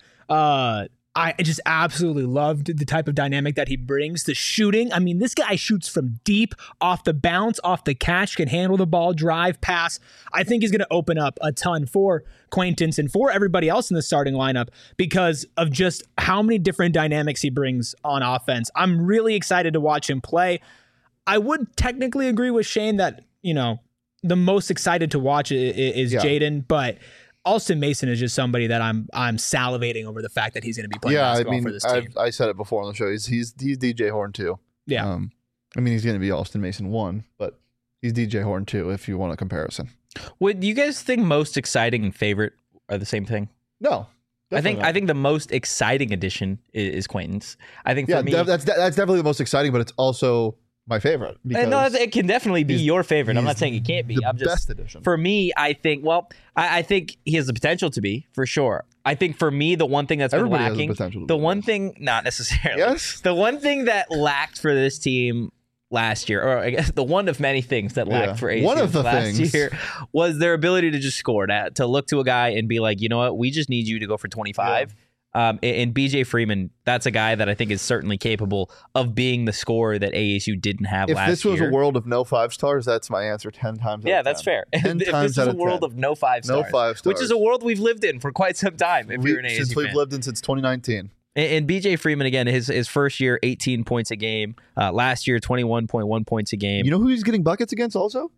I just absolutely loved the type of dynamic that he brings. The shooting. I mean, this guy shoots from deep, off the bounce, off the catch, can handle the ball, drive, pass. I think he's going to open up a ton for Quaintance and for everybody else in the starting lineup because of just how many different dynamics he brings on offense. I'm really excited to watch him play. I would technically agree with Shane that, the most excited to watch is Yeah. Jaden, but Alston Mason is just somebody that I'm salivating over the fact that he's going to be playing Yeah, I basketball mean, for this team. I said it before on the show. He's DJ Horn too. Yeah. I mean, he's going to be Alston Mason 1, but he's DJ Horn 2 if you want a comparison. Would you guys think most exciting and favorite are the same thing? No, Definitely I think the most exciting addition is Quaintance. I think for Yeah, me, that's definitely the most exciting, but it's also my favorite. Because no, it can definitely be your favorite. I'm he's not saying it can't be. the I'm just best addition. For me, I think. Well, I think he has the potential to be for sure. I think for me, the one thing that's been Everybody has the lacking, potential to the be. one thing, not necessarily. Yes? The one thing that lacked for this team last year, or I guess the one of many things that lacked Yeah. for ASU One of the last things. year was their ability to just score, to look to a guy and be like, you know what, we just need you to go for 25. And BJ Freeman, that's a guy that I think is certainly capable of being the scorer that ASU didn't have If last year. this was a world of no 5 stars, that's my answer 10 times. Yeah, out of that's 10. fair. 10 If times this is out a of world 10. of no 5 stars, No 5 which is stars. a world we've lived in for quite some time. If you're an ASU Since we've fan. lived in since 2019. And BJ Freeman again, his first year, 18 points a game. Last year, 21.1 points a game. You know who he's getting buckets against also?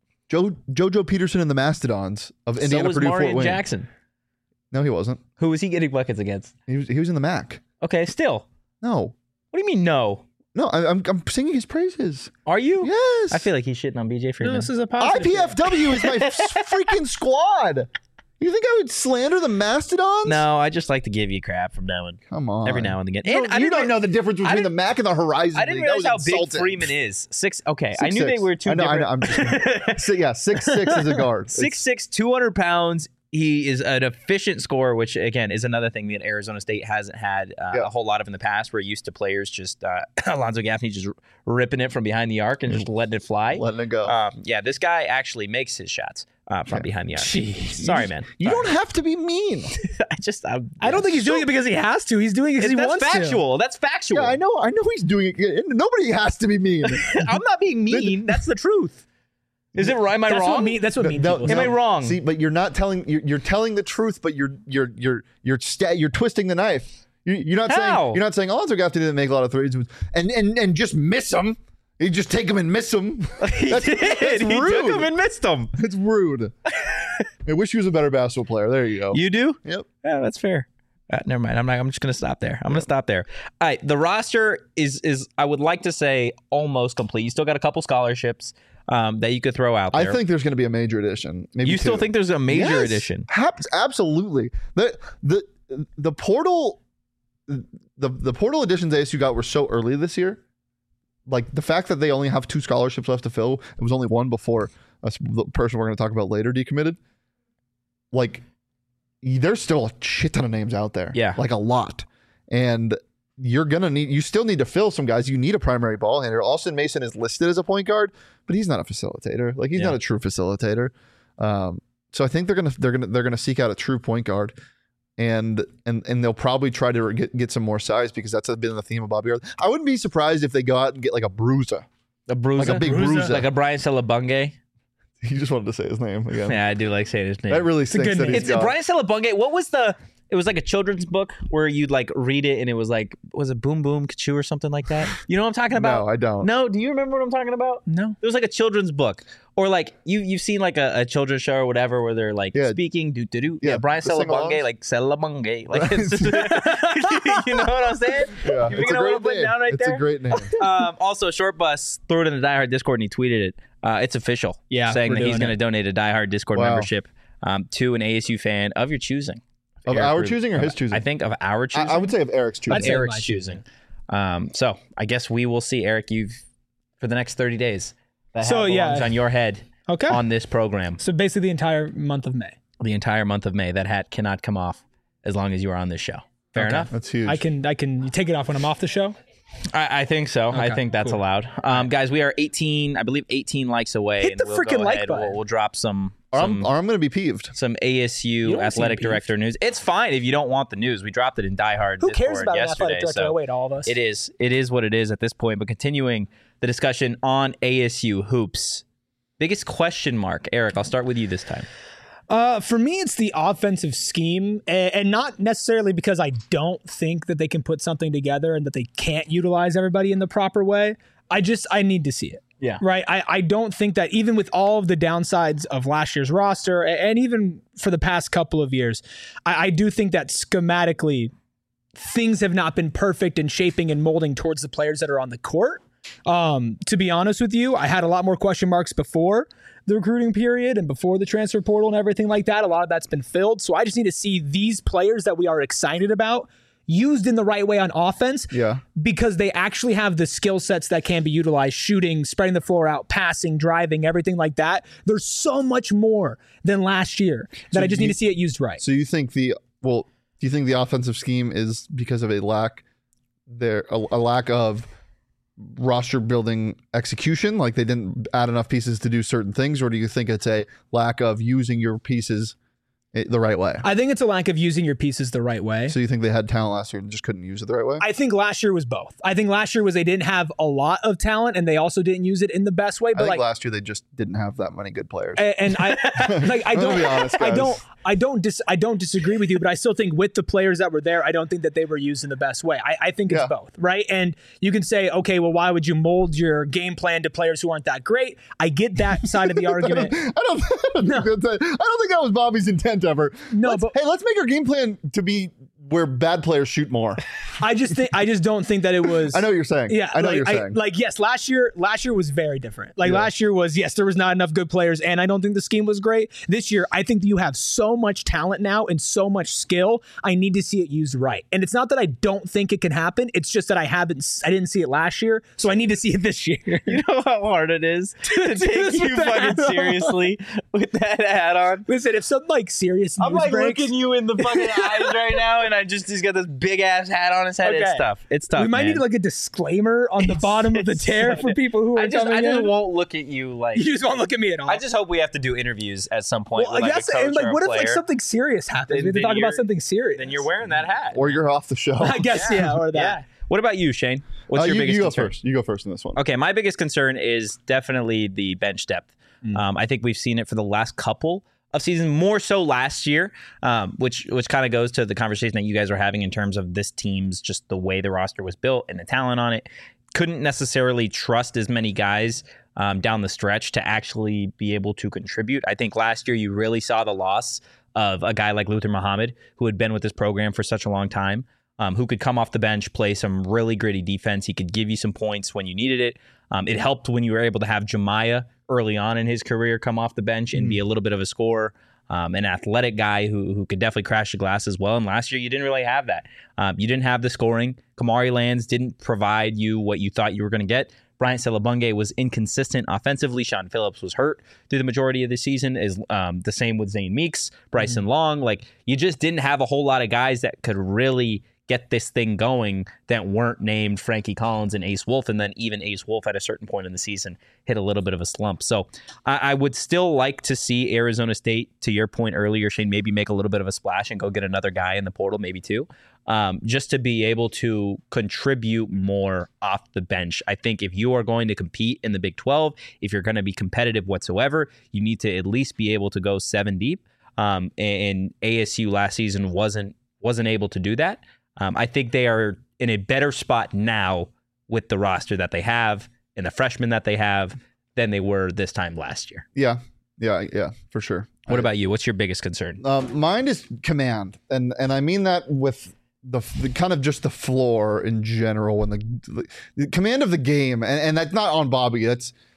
JoJo Peterson and the Mastodons of Indiana, so was Purdue, Marion Fort Wayne. Jackson. No, he wasn't. Who was he getting buckets against? He was in the MAC. Okay, still. No, What do you mean no? no, I'm singing his praises. Are you? Yes, I feel like he's shitting on BJ No, Freeman. this is a positive. IPFW is my freaking squad. You think I would slander the Mastodons? No, I just like to give you crap from now and Come on. every now and again. You And I don't didn't know the difference between the didn't- MAC and the Horizon I didn't League. That realize how was big insulting. Freeman is. Okay, I knew 6'6". they were two I know, different. I'm just 6'6" is a guard. 6'6", 200 pounds. He is an efficient scorer, which again is another thing that Arizona State hasn't had a whole lot of in the past. We're used to players just Alonzo Gaffney just ripping it from behind the arc and just letting it fly. Letting it go. Yeah, this guy actually makes his shots from behind the arc. Jeez. Sorry, man. You Sorry. don't have to be mean. I don't think he's doing it because he has to. He's doing it because he That's wants factual. That's factual. Yeah, I know he's doing it. Nobody has to be mean. I'm not being mean. That's the truth. Is it right? Am I to. wrong? That's what mean people Am I say. wrong? See, but you're not telling. You're telling the truth, but you're twisting the knife. You're not How? saying Alonzo Gaffney didn't make a lot of threes and just miss them. You just take them and miss them. He did. That's He rude. took him and missed him. It's rude. I wish he was a better basketball player. There you go. You do? Yep. Yeah, that's fair. Never mind. I'm just gonna stop there. I'm gonna stop there. All right. The roster is I would like to say almost complete. You still got a couple scholarships that you could throw out there. I think there's going to be a major addition. Maybe you still two. think there's a major Yes. addition. Absolutely. The portal the portal additions ASU got were so early this year. Like the fact that they only have 2 scholarships left to fill, it was only one before the person we're going to talk about later decommitted. Like there's still a shit ton of names out there. Yeah. Like a lot. And you still need to fill some guys. You need a primary ball handler. Austin Mason is listed as a point guard, but he's not a facilitator. Like he's Yeah. not a true facilitator. So I think they're gonna seek out a true point guard, and they'll probably try to get some more size because that's been the theme of Bobby Arthur. I wouldn't be surprised if they go out and get like a bruiser. A bruiser, Like a big bruiser. like a Brian Celebunge. He just wanted to say his name again. Yeah, I do like saying his name. That really stinks good that name. he's It's gone. Brian Celebunge. What was the? It was like a children's book where you'd like read it and it was like, was it Boom Boom Kachoo or something like that? You know what I'm talking about? No, I don't. No, do you remember what I'm talking about? No. It was like a children's book, or like you've seen like a children's show or whatever where they're like Yeah. speaking do do do. Yeah, Yeah, Brian the sing-alongs. Celebunge, like Celebunge, like it's, you know what I'm saying? Yeah, You it's picking a up what great I'm putting name. down right It's there? a great name. Also, Short Bus threw it in the Die Hard Discord and he tweeted it. It's official. Yeah, saying we're that he's doing going to it. donate a Die Hard Discord Wow. membership to an ASU fan of your choosing. Of Eric our Rubin. choosing or his choosing? I think of our choosing. I would say of Eric's choosing. I'd say Eric's my choosing. So I guess we will see, Eric, you've for the next 30 days. That So, hat yeah. belongs on your head Okay. on this program. So basically the entire month of May. The entire month of May. That hat cannot come off as long as you are on this show. Fair enough? That's huge. I can take it off when I'm off the show. I think so. I Okay, think that's cool. allowed. Guys, we are 18 likes away. Hit and the we'll freaking go like ahead. button. We'll drop some or I'm going to be peeved. some You ASU don't athletic seem peeved. director news. It's fine if you don't want the news. We dropped it in Die Hard Who Discord cares about an yesterday. athletic director? So Oh, wait, all of us. it is what it is at this point. But continuing the discussion on ASU hoops, biggest question mark, Eric. I'll start with you this time. For me, it's the offensive scheme, and not necessarily because I don't think that they can put something together and that they can't utilize everybody in the proper way. I need to see it. Yeah. Right. I don't think that even with all of the downsides of last year's roster and even for the past couple of years, I do think that schematically things have not been perfect in shaping and molding towards the players that are on the court. To be honest with you, I had a lot more question marks before the recruiting period and before the transfer portal and everything like that. A lot of that's been filled. So I just need to see these players that we are excited about used in the right way on offense, because they actually have the skill sets that can be utilized: shooting, spreading the floor out, passing, driving, everything like that. There's so much more than last year that I just need to see it used right. So you think do you think the offensive scheme is because of a lack of roster building execution, like they didn't add enough pieces to do certain things, or do you think it's a lack of using your pieces the right way? I think it's a lack of using your pieces the right way. So you think they had talent last year and just couldn't use it the right way? I think last year was both. I think last year was they didn't have a lot of talent and they also didn't use it in the best way. But I think last year they just didn't have that many good players. And I I'm gonna be honest, guys. I don't disagree with you, but I still think with the players that were there, I don't think that they were used in the best way. I think it's both, right? And you can say, okay, well, why would you mold your game plan to players who aren't that great? I get that side of the argument. I don't think that was Bobby's intent ever. No, let's make our game plan to be where bad players shoot more. I just don't think that it was. I know what you're saying. Yeah, I know what you're saying. Yes, last year was very different. Last year was, yes, there was not enough good players, and I don't think the scheme was great. This year, I think that you have so much talent now and so much skill. I need to see it used right. And it's not that I don't think it can happen. It's just that I didn't see it last year, so I need to see it this year. You know how hard it is to take you fucking seriously with that hat on? Listen, if some serious news I'm breaks, looking you in the fucking eyes right now, and he's got this big ass hat on his head. Okay. It's tough. We might man. need a disclaimer on the bottom of the tear for people who are coming in. I just won't look at you like. You just won't look at me at all. I just hope we have to do interviews at some point. Well, with, I guess, a coach and or a what player. if something serious happens? We have to talk about something serious. Then you're wearing that hat. Or you're off the show. I guess, or that. Yeah. What about you, Shane? What's your biggest concern? You go first in this one. Okay, my biggest concern is definitely the bench depth. I think we've seen it for the last couple of seasons, more so last year, which kind of goes to the conversation that you guys are having in terms of this team's just the way the roster was built and the talent on it. Couldn't necessarily trust as many guys down the stretch to actually be able to contribute. I think last year you really saw the loss of a guy like Luther Muhammad, who had been with this program for such a long time, who could come off the bench, play some really gritty defense. He could give you some points when you needed it. It helped when you were able to have Jemiah early on in his career come off the bench and be a little bit of a scorer, an athletic guy who could definitely crash the glass as well. And last year, you didn't really have that. You didn't have the scoring. Kamari Lands didn't provide you what you thought you were going to get. Bryant Selabunge was inconsistent offensively. Sean Phillips was hurt through the majority of the season. Is the same with Zane Meeks, Bryson Long. You just didn't have a whole lot of guys that could really get this thing going that weren't named Frankie Collins and Ace Wolf. And then even Ace Wolf at a certain point in the season hit a little bit of a slump. So I would still like to see Arizona State, to your point earlier, Shane, maybe make a little bit of a splash and go get another guy in the portal, maybe two, just to be able to contribute more off the bench. I think if you are going to compete in the Big 12, if you're going to be competitive whatsoever, you need to at least be able to go 7 deep. And ASU last season wasn't able to do that. I think they are in a better spot now with the roster that they have and the freshmen that they have than they were this time last year. Yeah, for sure. What about you? What's your biggest concern? Mine is command, and I mean that with the kind of just the floor in general and the command of the game, and that's not on Bobby.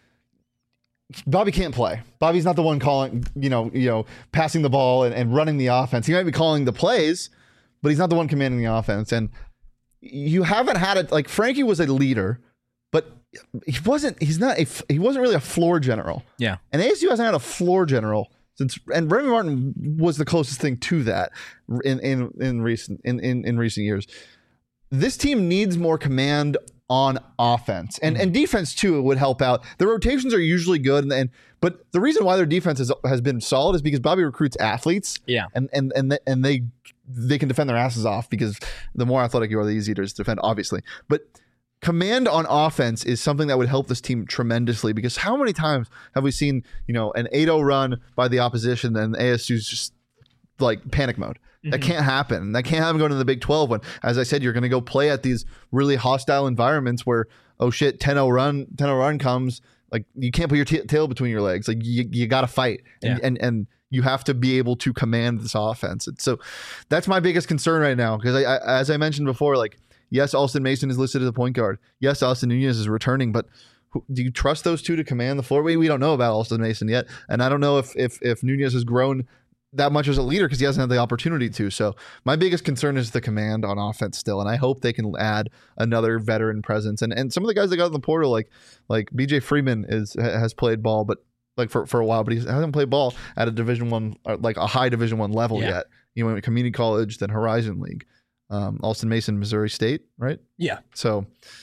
Bobby can't play. Bobby's not the one calling, passing the ball and running the offense. He might be calling the plays, but he's not the one commanding the offense. And you haven't had it. Like Frankie was a leader, but he wasn't really a floor general. Yeah. And ASU hasn't had a floor general and Remy Martin was the closest thing to that in recent years. This team needs more command on offense and defense too. It would help out. The rotations are usually good, but the reason why their defense has been solid is because Bobby recruits athletes. Yeah, and they can defend their asses off because the more athletic you are, the easier it is to defend, obviously. But command on offense is something that would help this team tremendously, because how many times have we seen an 8-0 run by the opposition and ASU's just like panic mode? That can't happen. That can't happen going to the Big 12 when, as I said, you're going to go play at these really hostile environments where, oh shit, 10-0 run comes. Like you can't put your tail between your legs. Like you got to fight, and you have to be able to command this offense. And so that's my biggest concern right now, because as I mentioned before, like Yes, Alston Mason is listed as a point guard. Yes, Austin Nunez is returning, but do you trust those two to command the floor? We don't know about Alston Mason yet, and I don't know if Nunez has grown that much as a leader because he hasn't had the opportunity to. So my biggest concern is the command on offense still, and I hope they can add another veteran presence. And some of the guys that got in the portal, like BJ Freeman has played ball, but like for a while, but he hasn't played ball at a Division I, like a high Division I level yet. You know, community college, then Horizon League. Alston Mason, Missouri State, right? Yeah. So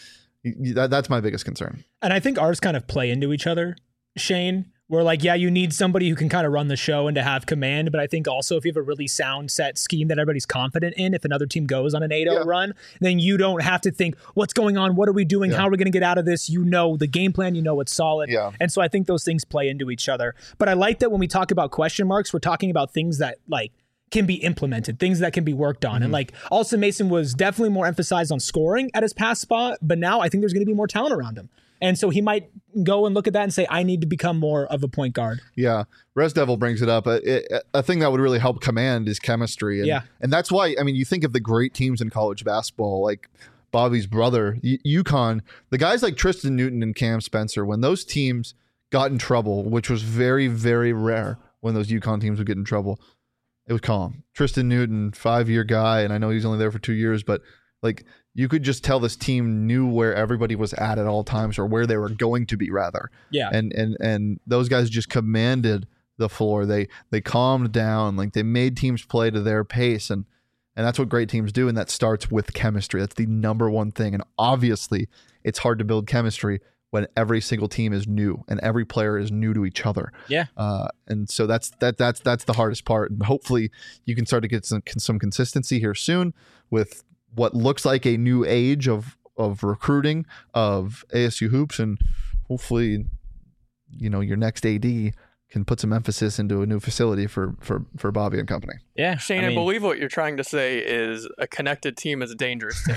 that's my biggest concern. And I think ours kind of play into each other, Shane. We're like, yeah, you need somebody who can kind of run the show and to have command. But I think also if you have a really sound set scheme that everybody's confident in, if another team goes on an 8-0 run, then you don't have to think, what's going on? What are we doing? How are we going to get out of this? You know the game plan. You know it's solid. Yeah. And so I think those things play into each other. But I like that when we talk about question marks, we're talking about things that like can be implemented, things that can be worked on. And like Alston Mason was definitely more emphasized on scoring at his past spot, but now I think there's going to be more talent around him. And so he might go and look at that and say, I need to become more of a point guard. Yeah. Res Devil brings it up. A thing that would really help command is chemistry. And that's why, I mean, you think of the great teams in college basketball, like Bobby's brother, UConn, the guys like Tristan Newton and Cam Spencer, when those teams got in trouble, which was very, very rare when those UConn teams would get in trouble, it was calm. Tristan Newton, 5-year guy, and I know he's only there for 2 years, but like you could just tell this team knew where everybody was at all times, or where they were going to be rather. Yeah. And those guys just commanded the floor. They calmed down, like they made teams play to their pace, and that's what great teams do, and that starts with chemistry. That's the number one thing. And obviously, it's hard to build chemistry when every single team is new and every player is new to each other. Yeah. And so that's the hardest part. And hopefully you can start to get some consistency here soon with what looks like a new age of recruiting of ASU hoops, and hopefully, you know, your next AD can put some emphasis into a new facility for Bobby and company. Yeah. Shane, I believe what you're trying to say is a connected team is a dangerous team.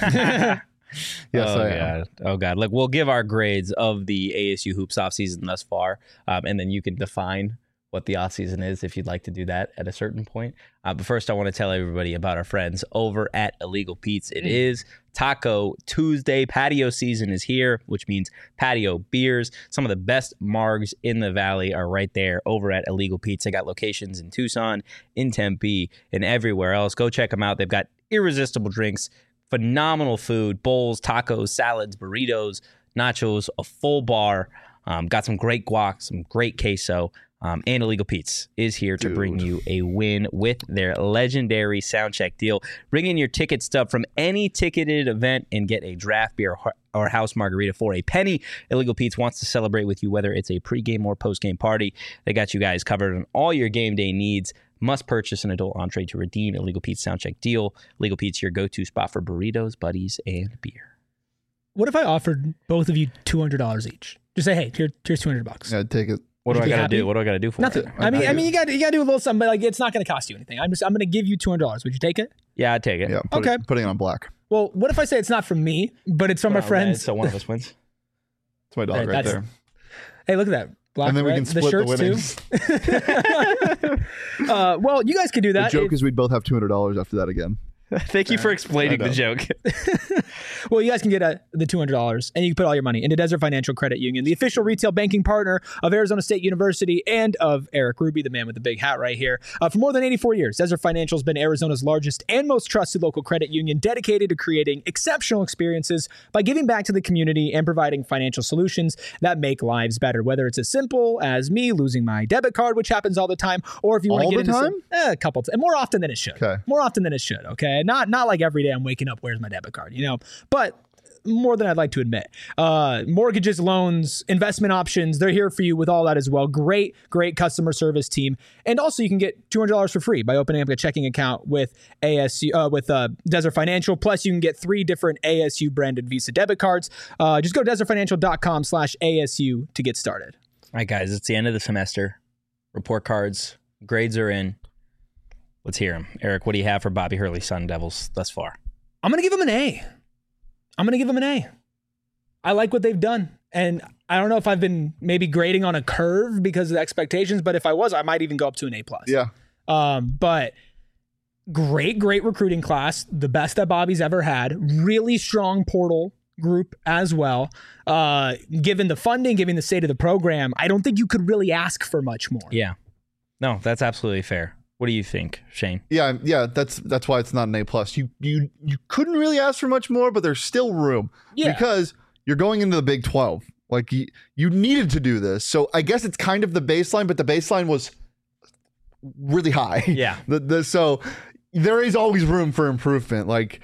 Yes, oh, I am. God. Oh, God. Look, we'll give our grades of the ASU hoops offseason thus far, and then you can define what the offseason is if you'd like to do that at a certain point. But first, I want to tell everybody about our friends over at Illegal Pete's. It is Taco Tuesday. Patio season is here, which means patio beers. Some of the best margs in the valley are right there over at Illegal Pete's. They got locations in Tucson, in Tempe, and everywhere else. Go check them out. They've got irresistible drinks, phenomenal food, bowls, tacos, salads, burritos, nachos, a full bar. Got some great guac, some great queso. And Illegal Pete's is here to bring you a win with their legendary Soundcheck deal. Bring in your ticket stub from any ticketed event and get a draft beer or house margarita for a penny. Illegal Pete's wants to celebrate with you, whether it's a pregame or postgame party. They got you guys covered on all your game day needs. Must purchase an adult entree to redeem Illegal Pete's Soundcheck deal. Illegal Pete's, your go-to spot for burritos, buddies, and beer. What if I offered both of you $200 each? Just say, hey, here's $200. Yeah, take it. What do Would I you be got to happy? do? What do I got to do for Nothing. it? I mean, you got to do a little something, but like it's not going to cost you anything. I'm going to give you $200. Would you take it? Yeah, I'd take it. Yeah, Okay. Putting it on black. Well, what if I say it's not from me, but it's from my friends? So one of us wins. It's my dog Right, right that's- there. Hey, look at that. Black, And then we red, can split the shirts winnings. too. Well, you guys could do The that. joke is we'd both have $200 after that again. Thank you for explaining I the know. joke. Well, you guys can get the $200 and you can put all your money into Desert Financial Credit Union, the official retail banking partner of Arizona State University and of Eric Ruby, the man with the big hat right here. For more than 84 years, Desert Financial has been Arizona's largest and most trusted local credit union, dedicated to creating exceptional experiences by giving back to the community and providing financial solutions that make lives better. Whether it's as simple as me losing my debit card, which happens all the time, or if you want to All get the into time? a couple times, more often than it should. Okay. More often than it should. Okay, not like every day I'm waking up, where's my debit card? You know, but more than I'd like to admit. Mortgages, loans, investment options, they're here for you with all that as well. Great customer service team. And also you can get $200 for free by opening up a checking account with ASU, with Desert Financial. Plus you can get 3 different ASU branded Visa debit cards. Just go to desertfinancial.com/ASU to get started. All right, guys, it's the end of the semester. Report cards, grades are in. Let's hear them. Eric, what do you have for Bobby Hurley Sun Devils thus far? I'm going to give them an A. I like what they've done. And I don't know if I've been maybe grading on a curve because of the expectations, but if I was, I might even go up to an A+. Yeah. But great recruiting class, the best that Bobby's ever had. Really strong portal group as well. Given the funding, given the state of the program, I don't think you could really ask for much more. Yeah. No, that's absolutely fair. What do you think, Shane? Yeah, that's why it's not an A+. You couldn't really ask for much more, but there's still room. Yeah. Because you're going into the Big 12. Like you needed to do this. So I guess it's kind of the baseline, but the baseline was really high. Yeah. So there is always room for improvement. Like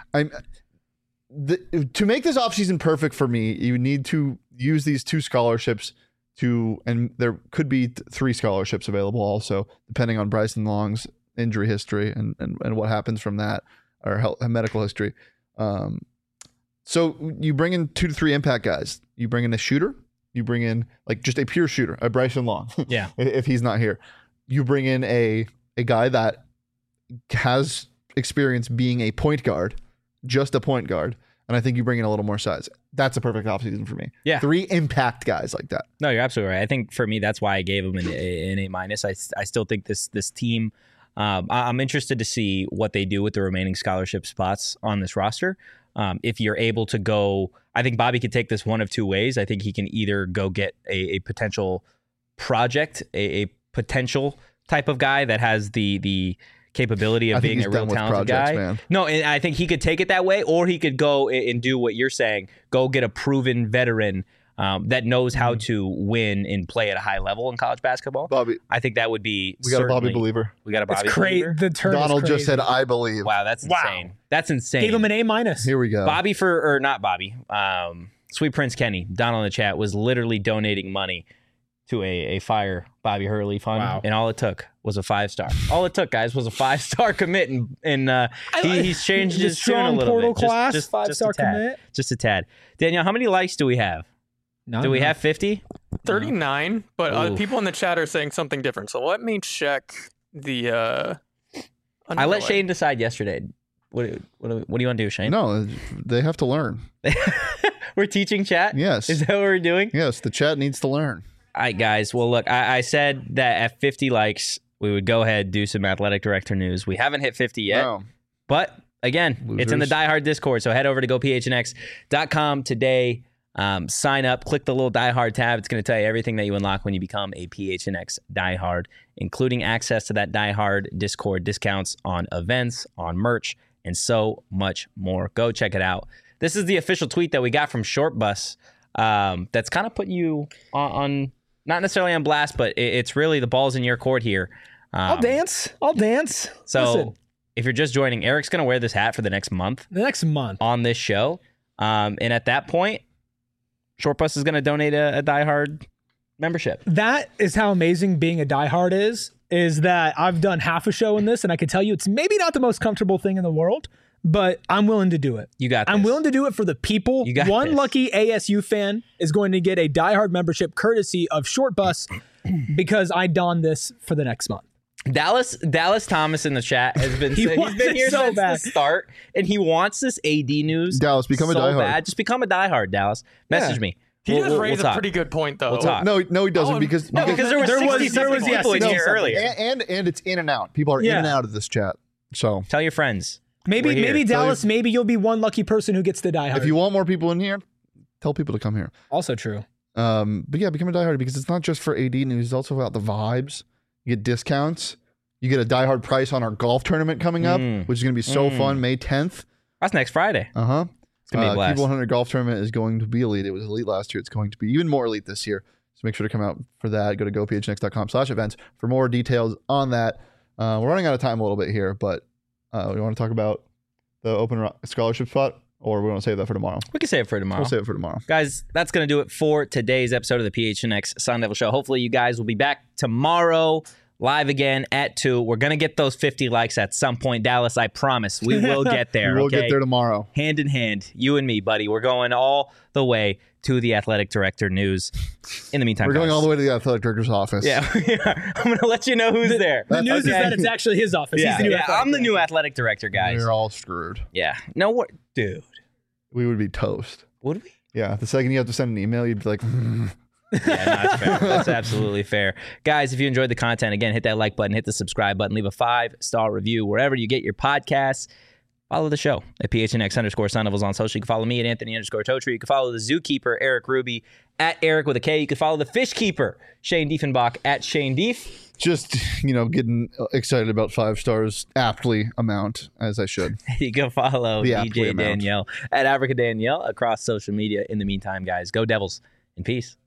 to make this offseason perfect for me, you need to use these 2 scholarships and there could be 3 scholarships available also, depending on Bryson Long's injury history and what happens from that, or medical history. So you bring in 2 to 3 impact guys. You bring in a shooter. You bring in like just a pure shooter, a Bryson Long. Yeah. If he's not here, you bring in a guy that has experience being a point guard, just a point guard. And I think you bring in a little more size. That's a perfect offseason for me. Yeah. 3 impact guys like that. No, you're absolutely right. I think for me, that's why I gave him an A-. I still think this team, I'm interested to see what they do with the remaining scholarship spots on this roster. If you're able to go, I think Bobby could take this one of 2 ways. I think he can either go get a potential project, a potential type of guy that has the capability of being a real talented guy. Man. No, and I think he could take it that way, or he could go and do what you're saying, go get a proven veteran that knows how to win and play at a high level in college basketball. Bobby, I think that would be we got a Bobby believer. We got a Bobby It's great. believer. The turn Donald is just crazy. said, I believe. Wow, that's insane. That's insane. Gave him an A-. Here we go. Bobby not Bobby. Sweet Prince Kenny, Donald in the chat, was literally donating money to a Fire Bobby Hurley fund. Wow. And all it took was a 5-star. All it took, guys, was a 5-star commit. And he's changed his tune a strong little portal bit. class, Just 5-star a tad. commit. Just a tad. Danielle, how many likes do we have? Do we have 50? 39, but Oof. people in the chat are saying something different. So let me check the. I let underlay. Shane decide yesterday. What do you want to do, Shane? No, they have to learn. We're teaching chat? Yes. Is that what we're doing? Yes, the chat needs to learn. All right, guys. Well, look, I said that at 50 likes, we would go ahead and do some athletic director news. We haven't hit 50 yet, No. but again, it's in the Losers. Die Hard Discord. So head over to gophnx.com today. Sign up, click the little Die Hard tab. It's going to tell you everything that you unlock when you become a PHNX Die Hard, including access to that Die Hard Discord, discounts on events, on merch, and so much more. Go check it out. This is the official tweet that we got from Short Bus. That's kind of putting you on not necessarily on blast, but it's really the ball's in your court here. I'll dance. So Listen, if you're just joining, Eric's going to wear this hat for the next month the next month. on this show. And at that point, Short Bus is going to donate a Die Hard membership. That is how amazing being a diehard is that I've done half a show in this, and I can tell you it's maybe not the most comfortable thing in the world, but I'm willing to do it. You got this. I'm willing to do it for the people. You got One this. lucky ASU fan is going to get a diehard membership courtesy of Short Bus because I don this for the next month. Dallas Thomas in the chat has been He saying, he's wants been it here so since bad. the start, and he wants this AD news. Dallas, become a so diehard. bad. Just become a diehard, Dallas. Message Yeah. me. He We'll- does we'll- raise we'll a talk. pretty good point, though. We'll talk. No, he doesn't Oh, because No, because there were There was- 60 there was- people in yes, here no, earlier. and it's in and out. People are in Yeah. and out of this chat. So Tell your friends. Maybe We're here. maybe Tell Dallas, maybe you'll be one lucky person who gets the diehard. if you want more people in here, tell people to come here. Also true. But yeah, become a diehard because it's not just for AD news. It's also about the vibes. You get discounts. You get a diehard price on our golf tournament coming up, which is going to be so fun. May 10th. That's next Friday. It's gonna be a blast. Cube 100 golf tournament is going to be elite. It was elite last year. It's going to be even more elite this year. So make sure to come out for that. Go to gophnx.com/events for more details on that. We're running out of time a little bit here, but we want to talk about the open scholarship spot, or we want to save that for tomorrow. We can save it for tomorrow. We'll save it for tomorrow. Guys, that's going to do it for today's episode of the PHNX Sun Devil Show. Hopefully you guys will be back tomorrow live again at 2. We're going to get those 50 likes at some point. Dallas, I promise. We will get there. We'll okay? get there tomorrow. Hand in hand, you and me, buddy. We're going all the way to the athletic director news. In the meantime, We're going guys. all the way to the athletic director's office. Yeah, we are. I'm going to let you know who's there. The news is Okay? that it's actually his office. Yeah, He's the new yeah, athletic I'm the new director. athletic director, guys. We're all screwed. Yeah. No, what? Dude. We would be toast. Would we? Yeah. The second you have to send an email, you'd be like, Yeah, no, that's fair. That's absolutely fair. Guys, if you enjoyed the content, again, hit that like button, hit the subscribe button, leave a 5-star review wherever you get your podcasts. Follow the show at PHNX_Sun Devils on social. You can follow me at Anthony_Totri. You can follow the Zookeeper, Eric Ruby, at Eric with a K. You can follow the Fish Keeper, Shane Diefenbach, at Shane Dief. Just, getting excited about 5 stars aptly amount, as I should. You can follow The aptly DJ amount. Danielle at Africa Danielle across social media. In the meantime, guys, go Devils in peace.